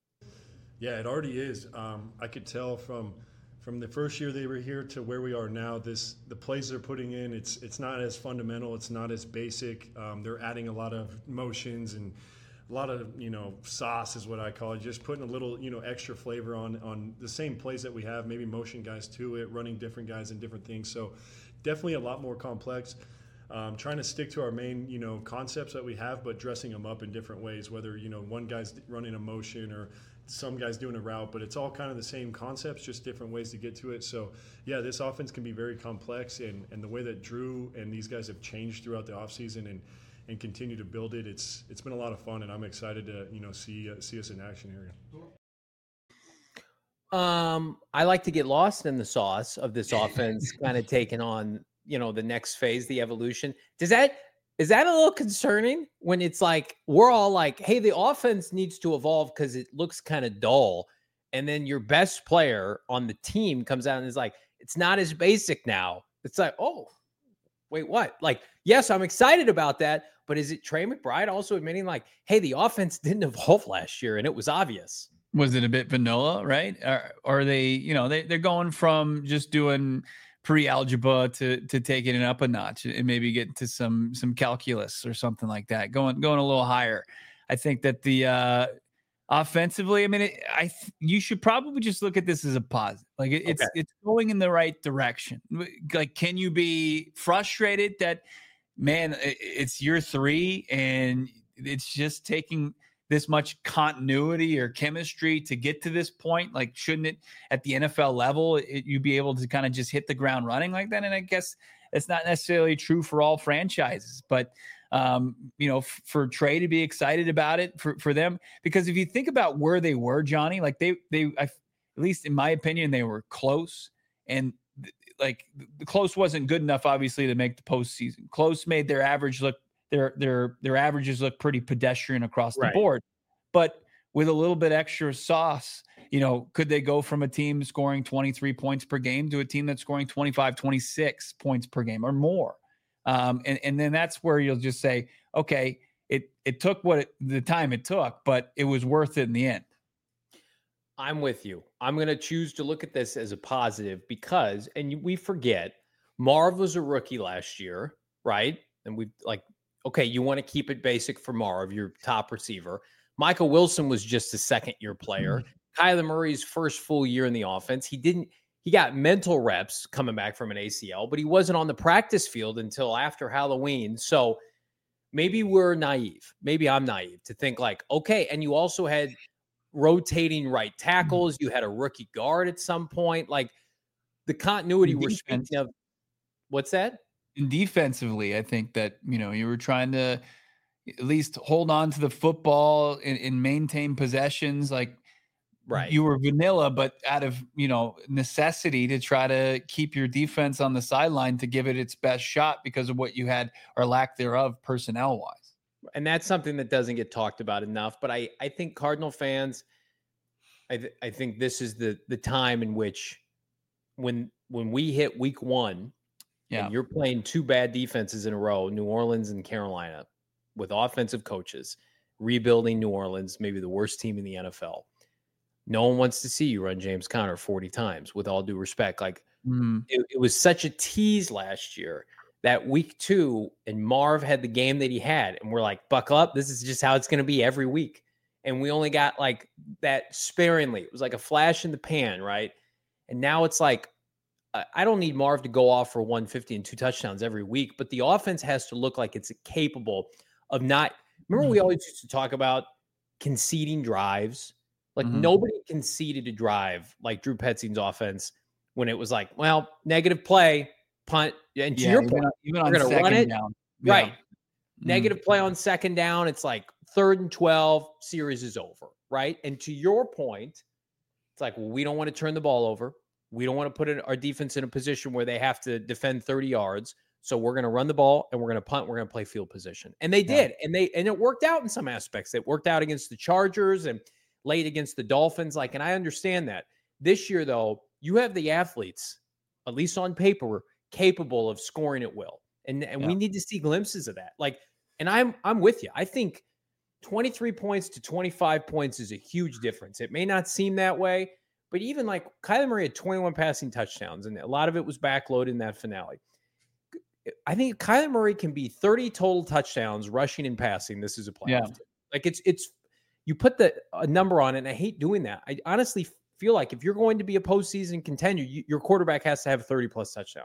[SPEAKER 5] Yeah, it already is. Um, I could tell from from the first year they were here to where we are now. This the plays they're putting in. It's it's not as fundamental. It's not as basic. Um, they're adding a lot of motions and a lot of you know sauce is what I call it. Just putting a little you know extra flavor on on the same plays that we have. Maybe motion guys to it, running different guys and different things. So definitely a lot more complex. Um, trying to stick to our main, you know, concepts that we have, but dressing them up in different ways. Whether you know one guy's running a motion or some guys doing a route, but it's all kind of the same concepts, just different ways to get to it. So, yeah, this offense can be very complex, and, and the way that Drew and these guys have changed throughout the offseason and and continue to build it, it's it's been a lot of fun, and I'm excited to you know see uh, see us in action here.
[SPEAKER 2] Um, I like to get lost in the sauce of this offense, kind of taking on you know the next phase, the evolution. Does that is that a little concerning when it's like we're all like, hey, the offense needs to evolve because it looks kind of dull, and then your best player on the team comes out and is like, it's not as basic now. It's like, oh, wait, what? Like, yes, I'm excited about that, but is it Trey McBride also admitting like, hey, the offense didn't evolve last year and it was obvious?
[SPEAKER 1] Was it a bit vanilla, right? Or, or are they, you know, they, they're going from just doing pre-algebra to to taking it up a notch and maybe get to some some calculus or something like that, going going a little higher. I think that the uh, offensively, I mean, it, I th- you should probably just look at this as a positive. Like it, it's
[SPEAKER 2] Okay.
[SPEAKER 1] it's going in the right direction. Like, can you be frustrated that, man, it, it's year three and it's just taking this much continuity or chemistry to get to this point? Like, shouldn't it at the N F L level, it, you be able to kind of just hit the ground running like that? And I guess it's not necessarily true for all franchises, but um, you know, f- for Trey to be excited about it for, for them, because if you think about where they were, Johnny, like they, they, I, at least in my opinion, they were close, and th- like the close wasn't good enough, obviously, to make the postseason. Close made their average look, their, their, their averages look pretty pedestrian across the
[SPEAKER 2] Right.
[SPEAKER 1] board, but with a little bit extra sauce, you know, could they go from a team scoring twenty-three points per game to a team that's scoring twenty-five, twenty-six points per game or more? Um, and, and then that's where you'll just say, okay, it it took what it, the time it took, but it was worth it in the end.
[SPEAKER 2] I'm with you. I'm going to choose to look at this as a positive because, and we forget, Marv was a rookie last year, right? And we like, okay, you want to keep it basic for Marv, your top receiver. Michael Wilson was just a second year player. Kyler Murray's first full year in the offense. He didn't, he got mental reps coming back from an A C L, but he wasn't on the practice field until after Halloween. So maybe we're naive. Maybe I'm naive to think like, okay. And you also had rotating right tackles. You had a rookie guard at some point. Like the continuity we're
[SPEAKER 1] Defense.
[SPEAKER 2] speaking of. What's that?
[SPEAKER 1] And defensively, I think that, you know, you were trying to at least hold on to the football and, and maintain possessions. Like,
[SPEAKER 2] Right.
[SPEAKER 1] you were vanilla, but out of, you know, necessity to try to keep your defense on the sideline to give it its best shot because of what you had or lack thereof personnel wise.
[SPEAKER 2] And that's something that doesn't get talked about enough. But I, I think Cardinal fans, I, th- I think this is the the time in which when when we hit week one,
[SPEAKER 1] Yeah.
[SPEAKER 2] and you're playing two bad defenses in a row, New Orleans and Carolina, with offensive coaches, rebuilding New Orleans, maybe the worst team in the N F L. No one wants to see you run James Conner forty times, with all due respect. Like
[SPEAKER 1] Mm-hmm.
[SPEAKER 2] it, it was such a tease last year that week two, and Marv had the game that he had, and we're like, buckle up. This is just how it's going to be every week. And we only got like that sparingly. It was like a flash in the pan, right? And now it's like, I don't need Marv to go off for one fifty and two touchdowns every week, but the offense has to look like it's capable of not. Remember, we always used to talk about conceding drives. Like
[SPEAKER 1] Mhm.
[SPEAKER 2] nobody conceded a drive like Drew Petzing's offense when it was like, well, negative play, punt, and to
[SPEAKER 1] Yeah,
[SPEAKER 2] your
[SPEAKER 1] even
[SPEAKER 2] point,
[SPEAKER 1] on, even on
[SPEAKER 2] we're gonna run
[SPEAKER 1] second
[SPEAKER 2] it.
[SPEAKER 1] down.
[SPEAKER 2] right?
[SPEAKER 1] Yeah.
[SPEAKER 2] Negative play on second down. It's like third and twelve, series is over, right? And to your point, it's like, well, we don't want to turn the ball over. We don't want to put in our defense in a position where they have to defend thirty yards. So we're going to run the ball and we're going to punt. We're going to play field position. And they
[SPEAKER 1] Yeah.
[SPEAKER 2] did. And they, and it worked out in some aspects. It worked out against the Chargers and late against the Dolphins. Like, and I understand that. This year, though, you have the athletes, at least on paper, capable of scoring at will. And, and
[SPEAKER 1] Yeah.
[SPEAKER 2] we need to see glimpses of that. Like, and I'm, I'm with you. I think twenty-three points to twenty-five points is a huge difference. It may not seem that way, but even like Kyler Murray had twenty-one passing touchdowns, and a lot of it was backloaded in that finale. I think Kyler Murray can be thirty total touchdowns rushing and passing. This is a playoff
[SPEAKER 1] Yeah.
[SPEAKER 2] team. Like it's, it's, you put the a number on it, and I hate doing that. I honestly feel like if you're going to be a postseason contender, you, your quarterback has to have thirty plus touchdowns.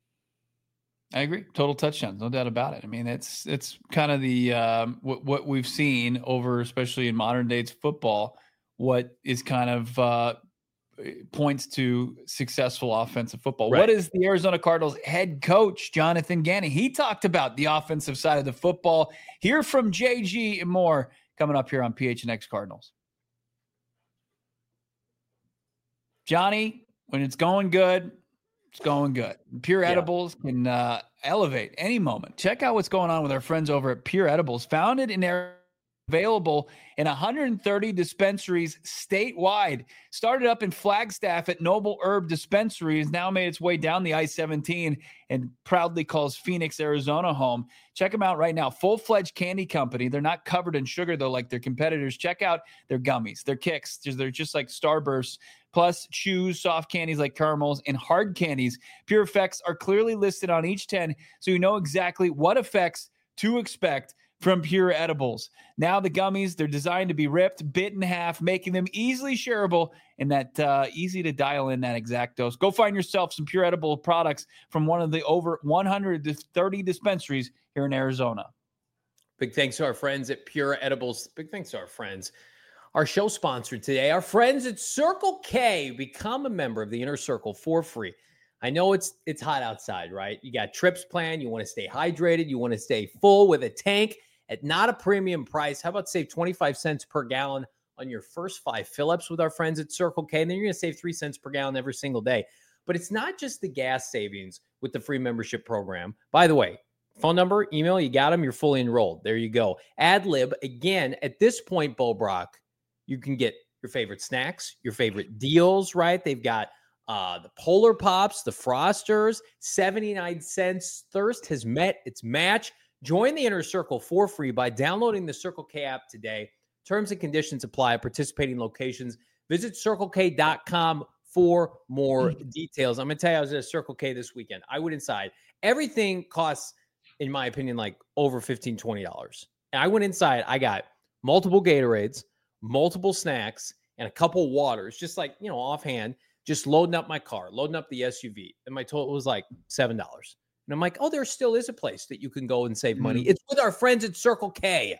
[SPEAKER 1] I agree. Total touchdowns, no doubt about it. I mean, it's it's kind of the um, what what we've seen over, especially in modern days football. What is kind of uh, points to successful offensive football.
[SPEAKER 2] Right.
[SPEAKER 1] What is the Arizona Cardinals head coach Jonathan Gannon? He talked about the offensive side of the football. Hear from J G and more coming up here on P H N X Cardinals. Johnny, when it's going good, it's going good. Pure
[SPEAKER 2] Yeah.
[SPEAKER 1] Edibles can uh, elevate any moment. Check out what's going on with our friends over at Pure Edibles, founded in Arizona, available in one hundred thirty dispensaries statewide. Started up in Flagstaff at Noble Herb Dispensary, has now made its way down the I seventeen and proudly calls Phoenix, Arizona home. Check them out right now. Full-fledged candy company. They're not covered in sugar, though, like their competitors. Check out their gummies, their kicks. They're just like Starbursts, plus chews, soft candies like caramels, and hard candies. Pure effects are clearly listed on each tin, so you know exactly what effects to expect. from Pure Edibles. Now the gummies, they're designed to be ripped, bit in half, making them easily shareable and that uh, easy to dial in that exact dose. Go find yourself some Pure Edible products from one of the over one hundred thirty dispensaries here in Arizona.
[SPEAKER 2] Big thanks to our friends at Pure Edibles. Big thanks to our friends. Our show sponsor today, our friends at Circle K. Become a member of the Inner Circle for free. I know it's it's hot outside, right? You got trips planned. You want to stay hydrated. You want to stay full with a tank at not a premium price. How about save twenty-five cents per gallon on your first five fill-ups with our friends at Circle K? And then you're going to save three cents per gallon every single day. But it's not just the gas savings with the free membership program. By the way, phone number, email, you got them, you're fully enrolled. There you go. Adlib, again, at this point, Bo Brock, you can get your favorite snacks, your favorite deals, right? They've got uh, the Polar Pops, the Frosters, seventy-nine cents. Thirst has met its match. Join the Inner Circle for free by downloading the Circle K app today. Terms and conditions apply at participating locations. Visit circle k dot com for more details. I'm going to tell you, I was at a Circle K this weekend. I went inside. Everything costs, in my opinion, like over fifteen dollars, twenty dollars. And I went inside. I got multiple Gatorades, multiple snacks, and a couple waters, just like, you know, offhand, just loading up my car, loading up the S U V. And my total was like seven dollars. And I'm like, oh, there still is a place that you can go and save money.
[SPEAKER 1] Mm-hmm.
[SPEAKER 2] It's with our friends at Circle K.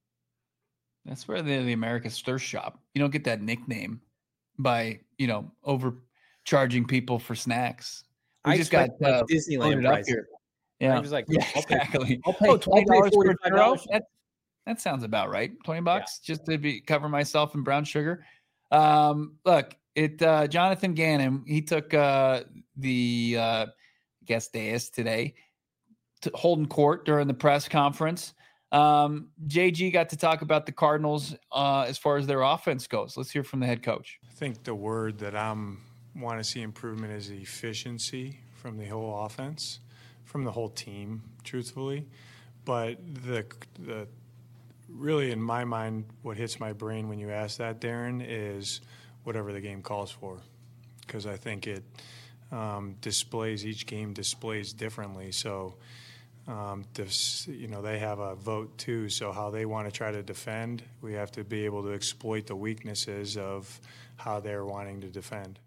[SPEAKER 1] That's where they're the America's Thirst Shop. You don't get that nickname by, you know, overcharging people for snacks. We
[SPEAKER 2] I
[SPEAKER 1] just got
[SPEAKER 2] like
[SPEAKER 1] uh,
[SPEAKER 2] Disneyland
[SPEAKER 1] up
[SPEAKER 2] prices.
[SPEAKER 1] here. Yeah,
[SPEAKER 2] I was like,
[SPEAKER 1] yeah,
[SPEAKER 2] I'll pay,
[SPEAKER 1] exactly.
[SPEAKER 2] I'll pay,
[SPEAKER 1] oh, twenty dollars
[SPEAKER 2] I'll
[SPEAKER 1] for
[SPEAKER 2] pay
[SPEAKER 1] a
[SPEAKER 2] forty-five dollars.
[SPEAKER 1] churro? That, that sounds about right. Twenty bucks yeah. just to be cover myself in brown sugar. Um, look, it uh, Jonathan Gannon. He took uh, the uh, guest dais today to Holden Court during the press conference. Um, J G got to talk about the Cardinals uh, as far as their offense goes. Let's hear from the head coach.
[SPEAKER 6] I think the word that I'm want to see improvement is efficiency from the whole offense, from the whole team, truthfully. But the the really, in my mind, what hits my brain when you ask that, Darren, is whatever the game calls for, because I think it um, displays each game displays differently. So. Um, this, you know, they have a vote too, so how they want to try to defend, we have to be able to exploit the weaknesses of how they're wanting to defend.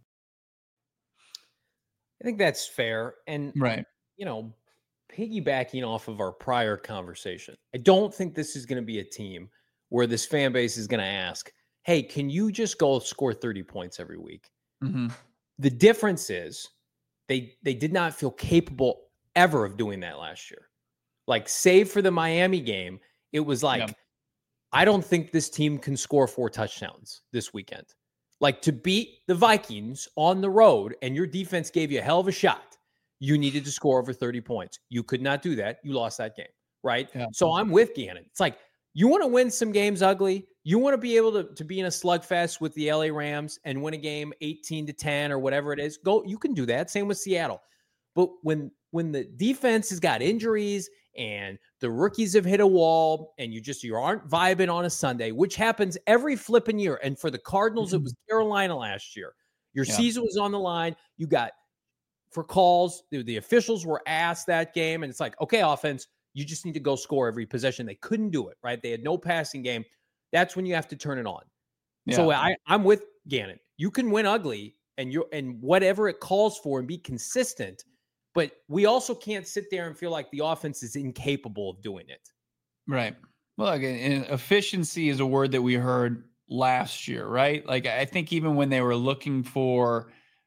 [SPEAKER 2] I think that's fair. And,
[SPEAKER 1] right,
[SPEAKER 2] you know, piggybacking off of our prior conversation, I don't think this is going to be a team where this fan base is going to ask, hey, can you just go score thirty points every week?
[SPEAKER 1] Mm-hmm.
[SPEAKER 2] The difference is they they did not feel capable ever of doing that last year. Like, save for the Miami game, it was like, yeah. I don't think this team can score four touchdowns this weekend. Like, to beat the Vikings on the road and your defense gave you a hell of a shot, you needed to score over thirty points. You could not do that. You lost that game, right? Yeah. So I'm with Gannon. It's like, you want to win some games ugly. You want to be able to, to be in a slugfest with the L A Rams and win a game eighteen to ten or whatever it is. Go, you can do that. Same with Seattle. But when when the defense has got injuries and the rookies have hit a wall and you just you aren't vibing on a Sunday, which happens every flipping year. And for the Cardinals, mm-hmm. it was Carolina last year. Your yeah. season was on the line. You got for calls. The, the officials were asked that game. And it's like, okay, offense, you just need to go score every possession. They couldn't do it, right? They had no passing game. That's when you have to turn it on. Yeah. So I, I'm with Gannon. You can win ugly and you and whatever it calls for and be consistent. But we also can't sit there and feel like the offense is incapable of doing it.
[SPEAKER 1] Right. Well, again, efficiency is a word that we heard last year, right? Like, I think even when they were looking for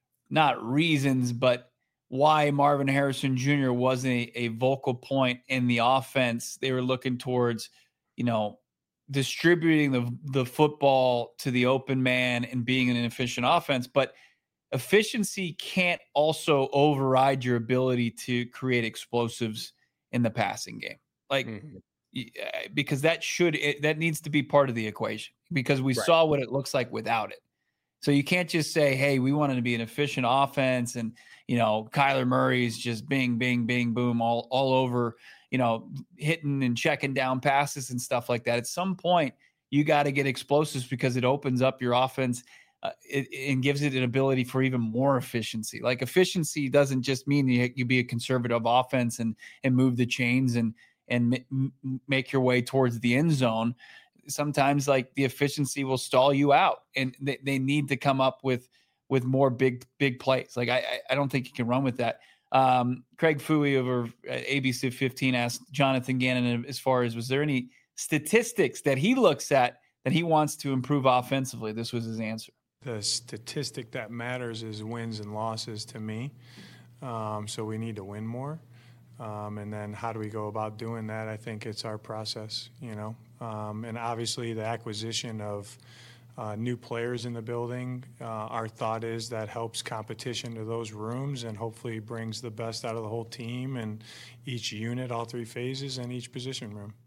[SPEAKER 1] not reasons, but why Marvin Harrison Junior wasn't a, a vocal point in the offense, they were looking towards, you know, distributing the, the football to the open man and being an efficient offense. But efficiency can't also override your ability to create explosives in the passing game. Like, mm-hmm. because that should, it, that needs to be part of the equation because we right. saw what it looks like without it. So you can't just say, hey, we wanted to be an efficient offense and, you know, Kyler Murray's just bing, bing, bing, boom, all, all over, you know, hitting and checking down passes and stuff like that. At some point, you got to get explosives because it opens up your offense uh, it, and gives it an ability for even more efficiency. Like, efficiency doesn't just mean you, you be a conservative offense and and move the chains and and m- m- make your way towards the end zone, sometimes like the efficiency will stall you out, and they, they need to come up with with more big big plays. Like I I don't think you can run with that. Um, Craig Fouie over at A B C fifteen asked Jonathan Gannon as far as was there any statistics that he looks at that he wants to improve offensively. This was his answer.
[SPEAKER 6] The statistic that matters is wins and losses to me. Um, so we need to win more. Um, and then how do we go about doing that? I think it's our process, you know. Um, and obviously the acquisition of uh, new players in the building, uh, our thought is that helps competition to those rooms and hopefully brings the best out of the whole team and each unit, all three phases, and each position room.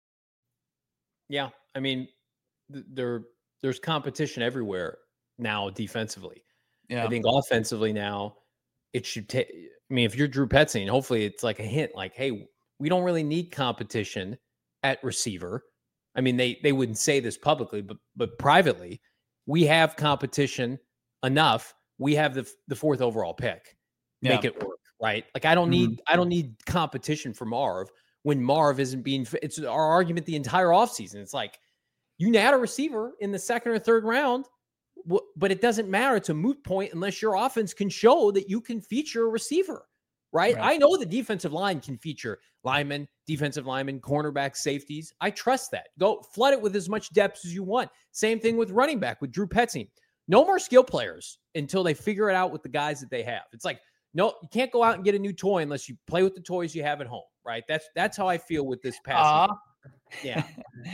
[SPEAKER 2] Yeah, I mean, th- there there's competition everywhere now defensively.
[SPEAKER 1] Yeah.
[SPEAKER 2] I think offensively now it should take. I mean, if you're Drew Petzing, hopefully it's like a hint, like, hey, we don't really need competition at receiver. I mean, they they wouldn't say this publicly, but but privately, we have competition enough. We have the the fourth overall pick. Make
[SPEAKER 1] Yeah.
[SPEAKER 2] it work, right? Like I don't
[SPEAKER 1] Mhm.
[SPEAKER 2] need I don't need competition for Marv when Marv isn't being. It's our argument the entire offseason. It's like you had a receiver in the second or third round, w- but it doesn't matter. It's a moot point unless your offense can show that you can feature a receiver, right?
[SPEAKER 1] Right.
[SPEAKER 2] I know the defensive line can feature linemen, defensive linemen, cornerbacks, safeties. I trust that. Go flood it with as much depth as you want. Same thing with running back with Drew Petzing. No more skill players until they figure it out with the guys that they have. It's like, no, you can't go out and get a new toy unless you play with the toys you have at home, right? That's that's how I feel with this pass.
[SPEAKER 1] Aw.
[SPEAKER 2] Yeah.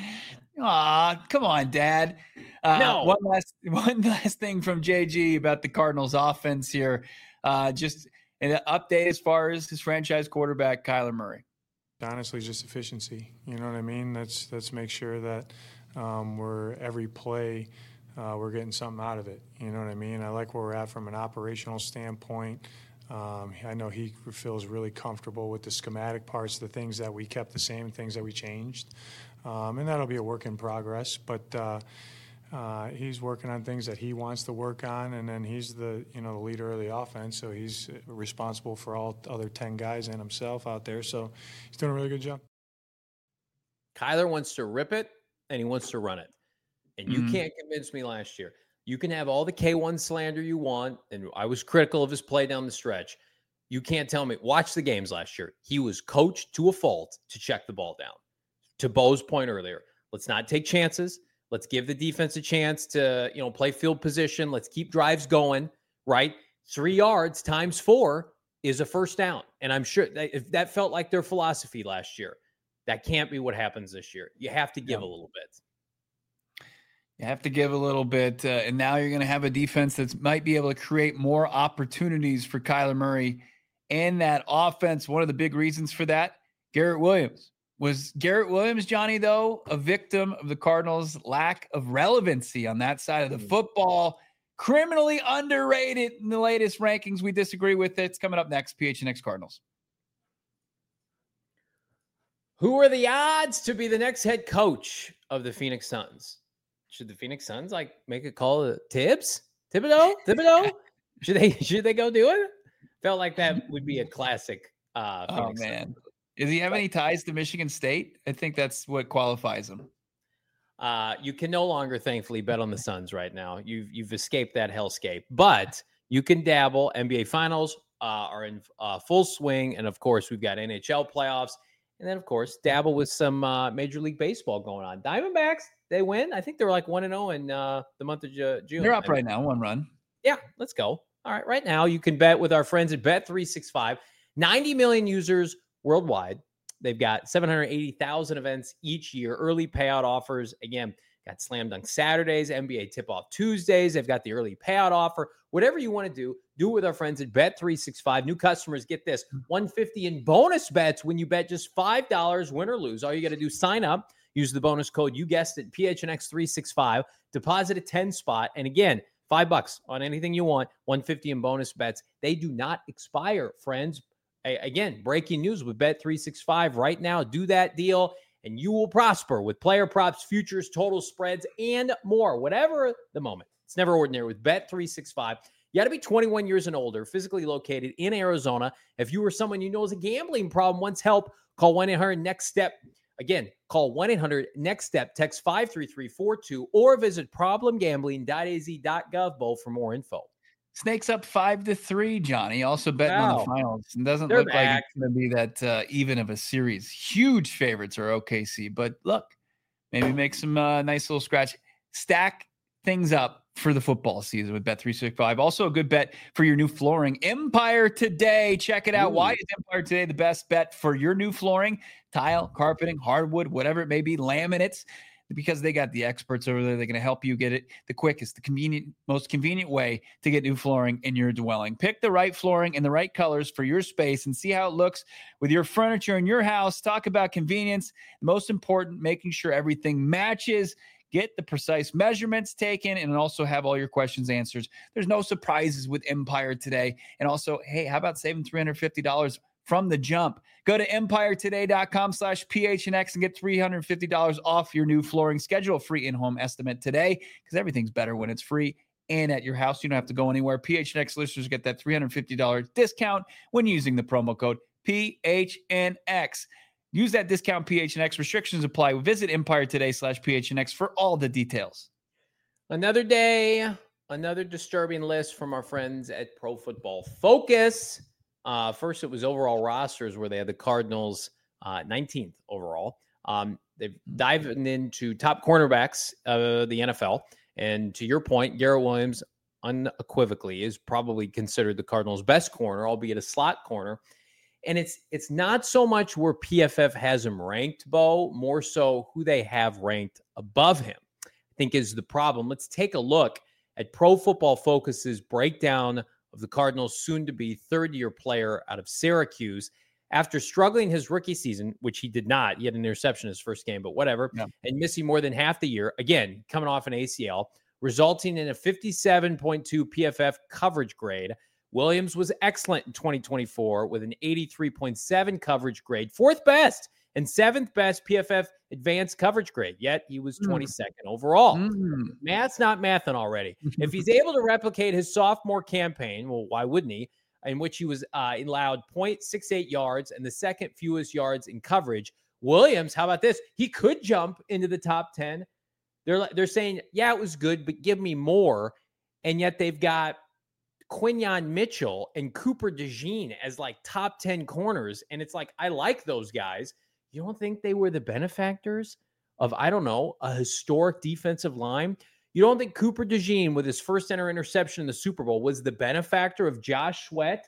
[SPEAKER 1] Aw, come on, Dad. Uh,
[SPEAKER 2] No.
[SPEAKER 1] One last, one last thing from J G about the Cardinals offense here. Uh, just an update as far as his franchise quarterback, Kyler Murray.
[SPEAKER 6] Honestly, just efficiency. You know what I mean? Let's let's make sure that um, we're every play uh, we're getting something out of it. You know what I mean? I like where we're at from an operational standpoint. Um, I know he feels really comfortable with the schematic parts, the things that we kept the same, things that we changed, um, and that'll be a work in progress. But uh, uh, he's working on things that he wants to work on, and then he's the you know the leader of the offense, so he's responsible for all other ten guys and himself out there. So he's doing a really good job.
[SPEAKER 2] Kyler wants to rip it and he wants to run it. And you
[SPEAKER 1] Mhm.
[SPEAKER 2] can't convince me last year. You can have all the K one slander you want, and I was critical of his play down the stretch. You can't tell me. Watch the games last year. He was coached to a fault to check the ball down. To Bo's point earlier, let's not take chances. Let's give the defense a chance to, you know, play field position. Let's keep drives going, right? Three yards times four is a first down. And I'm sure that if that felt like their philosophy last year, that can't be what happens this year. You have to give
[SPEAKER 1] Yeah.
[SPEAKER 2] a little bit.
[SPEAKER 1] You have to give a little bit, uh, and now you're going to have a defense that might be able to create more opportunities for Kyler Murray and that offense. One of the big reasons for that, Garrett Williams. Was Garrett Williams, Johnny, though, a victim of the Cardinals' lack of relevancy on that side of the football? Criminally underrated in the latest rankings. We disagree with it. It's coming up next, P H N X Cardinals.
[SPEAKER 2] Who are the odds to be the next head coach of the Phoenix Suns? Should the Phoenix Suns like make a call to Tibbs? Thibodeau? Thibodeau? should they should they go do it? Felt like that would be a classic. Uh,
[SPEAKER 1] Oh,
[SPEAKER 2] Phoenix
[SPEAKER 1] man.
[SPEAKER 2] Suns.
[SPEAKER 1] Does he have any ties to Michigan State? I think that's what qualifies him.
[SPEAKER 2] Uh, you can no longer, thankfully, bet on the Suns right now. You've you've escaped that hellscape, but you can dabble. N B A Finals uh, are in uh, full swing, and of course, we've got N H L playoffs, and then of course, dabble with some uh, Major League Baseball going on. Diamondbacks, they win. I think they're like one and zero in uh, the month of Ju- June.
[SPEAKER 1] They're up
[SPEAKER 2] I mean,
[SPEAKER 1] right now, one run.
[SPEAKER 2] Yeah, let's go. All right, right now you can bet with our friends at Bet three sixty-five. ninety million users worldwide. They've got seven hundred eighty thousand events each year, early payout offers. Again, got Slam Dunk Saturdays, N B A Tip-Off Tuesdays. They've got the early payout offer. Whatever you want to do, do it with our friends at Bet three sixty-five. New customers get this, one hundred fifty dollars in bonus bets when you bet just five dollars, win or lose. All you got to do, sign up, use the bonus code, you guessed it, P H N X three sixty-five, deposit a ten spot. And again, five bucks on anything you want, one hundred fifty dollars in bonus bets. They do not expire, friends. Again, breaking news with Bet three sixty-five right now. Do that deal, and you will prosper with player props, futures, total spreads, and more. Whatever the moment. It's never ordinary with Bet three sixty-five. You got to be twenty-one years and older, physically located in Arizona. If you or someone you know has a gambling problem, wants help, call one eight hundred next step. Again, call one eight hundred next step, text five three three four two, or visit problem gambling dot a z dot gov bowl for more info.
[SPEAKER 1] Snakes up five to three, Johnny. Also betting
[SPEAKER 2] Wow.
[SPEAKER 1] on the finals. It doesn't
[SPEAKER 2] They're
[SPEAKER 1] look like
[SPEAKER 2] back.
[SPEAKER 1] it's going to be that uh, even of a series. Huge favorites are O K C, but look, maybe make some uh, nice little scratch. Stack things up for the football season with Bet three sixty-five. Also a good bet for your new flooring. Empire Today. Check it out.
[SPEAKER 2] Ooh.
[SPEAKER 1] Why is Empire Today the best bet for your new flooring, tile, carpeting, hardwood, whatever it may be, laminates? Because they got the experts over there. They're going to help you get it the quickest, the convenient, most convenient way to get new flooring in your dwelling. Pick the right flooring in the right colors for your space and see how it looks with your furniture in your house. Talk about convenience. Most important, making sure everything matches. Get the precise measurements taken and also have all your questions answered. There's no surprises with Empire Today. And also, hey, how about saving three hundred fifty dollars from the jump? Go to empire today dot com slash P H N X and get three hundred fifty dollars off your new flooring. Schedule a free in-home estimate today because everything's better when it's free and at your house. You don't have to go anywhere. P H N X listeners get that three hundred fifty dollars discount when using the promo code P H N X. Use that discount P H N X. Restrictions apply. Visit empire today slash P H N X for all the details.
[SPEAKER 2] Another day, another disturbing list from our friends at Pro Football Focus. Uh, first, it was overall rosters where they had the Cardinals uh, nineteenth overall. Um, they've dived into top cornerbacks of the N F L. And to your point, Garrett Williams unequivocally is probably considered the Cardinals' best corner, albeit a slot corner. And it's it's not so much where P F F has him ranked, Bo, more so who they have ranked above him, I think is the problem. Let's take a look at Pro Football Focus's breakdown of the Cardinals' soon-to-be third-year player out of Syracuse. After struggling his rookie season, which he did not, he had an interception in his first game, but whatever,
[SPEAKER 1] Yeah.
[SPEAKER 2] and missing more than half the year, again, coming off an A C L, resulting in a fifty-seven point two P F F coverage grade. Williams was excellent in twenty twenty-four with an eighty-three point seven coverage grade, fourth best and seventh best P F F advanced coverage grade, yet he was twenty-second mm. overall.
[SPEAKER 1] Mm.
[SPEAKER 2] Math's not mathing already. If he's able to replicate his sophomore campaign, well, why wouldn't he, in which he was uh, allowed zero point six eight yards and the second fewest yards in coverage, Williams, how about this? He could jump into the top ten. They're, they're saying, yeah, it was good, but give me more. And yet they've got Quinyon Mitchell and Cooper DeJean as like top ten corners. And it's like, I like those guys. You don't think they were the benefactors of, I don't know, a historic defensive line? You don't think Cooper DeJean with his first ever interception in the Super Bowl was the benefactor of Josh Sweat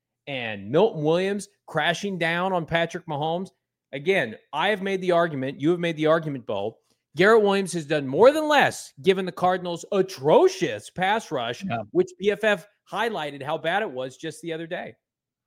[SPEAKER 2] and Milton Williams crashing down on Patrick Mahomes? Again, I have made the argument, you have made the argument, Bo. Garrett Williams has done more than less given the Cardinals' atrocious pass rush, yeah. which P F F highlighted how bad it was just the other day.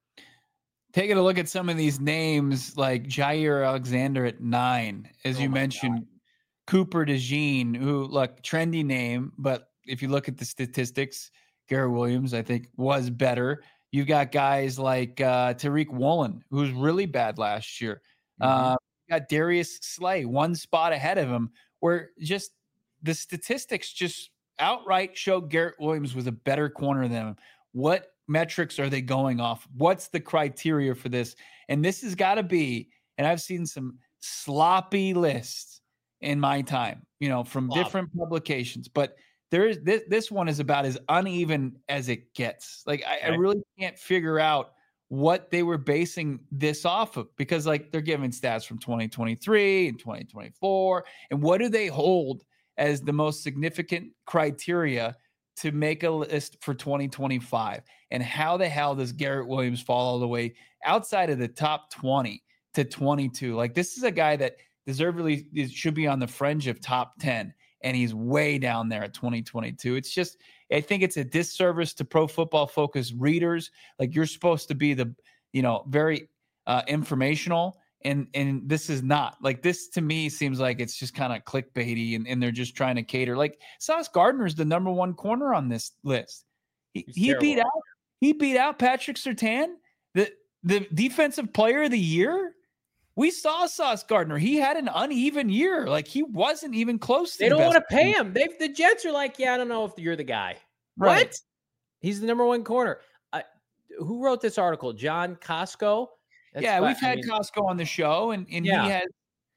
[SPEAKER 1] Taking a look at some of these names like Jair Alexander at nine, as oh you mentioned, God. Cooper DeJean, who, look, trendy name, but if you look at the statistics, Garrett Williams, I think, was better. You've got guys like uh, Tariq Woolen, who was really bad last year. Mm-hmm. Uh, got Darius Slay one spot ahead of him, where just the statistics just outright show Garrett Williams was a better corner than him. What metrics are they going off? What's the criteria for this? And this has got to be, and I've seen some sloppy lists in my time, you know, from Sloppy. different publications, but there is this, this one is about as uneven as it gets. Like I, okay. I really can't figure out what they were basing this off of, because like they're giving stats from twenty twenty-three and twenty twenty-four. And what do they hold as the most significant criteria to make a list for twenty twenty-five? And how the hell does Garrett Williams fall all the way outside of the top twenty to twenty-two? Like this is a guy that deservedly should be on the fringe of top ten. And he's way down there at twenty twenty-two. It's just, I think it's a disservice to Pro Football Focus readers. Like you're supposed to be the, you know, very uh, informational. And and this is not. Like this to me seems like it's just kind of clickbaity and, and they're just trying to cater. Like Sauce Gardner is the number one corner on this list. He, he beat out he beat out Patrick Surtain, the the defensive player of the year. We saw Sauce Gardner. He had an uneven year. Like he wasn't even close to
[SPEAKER 2] They
[SPEAKER 1] the
[SPEAKER 2] don't
[SPEAKER 1] best
[SPEAKER 2] want to pay him. They the Jets are like, yeah, I don't know if you're the guy.
[SPEAKER 1] Right.
[SPEAKER 2] What? He's the number one corner. Uh, who wrote this article? John Costco? That's
[SPEAKER 1] yeah,
[SPEAKER 2] fi-
[SPEAKER 1] we've
[SPEAKER 2] I
[SPEAKER 1] had
[SPEAKER 2] mean,
[SPEAKER 1] Costco on the show, and, and
[SPEAKER 2] Yeah.
[SPEAKER 1] he has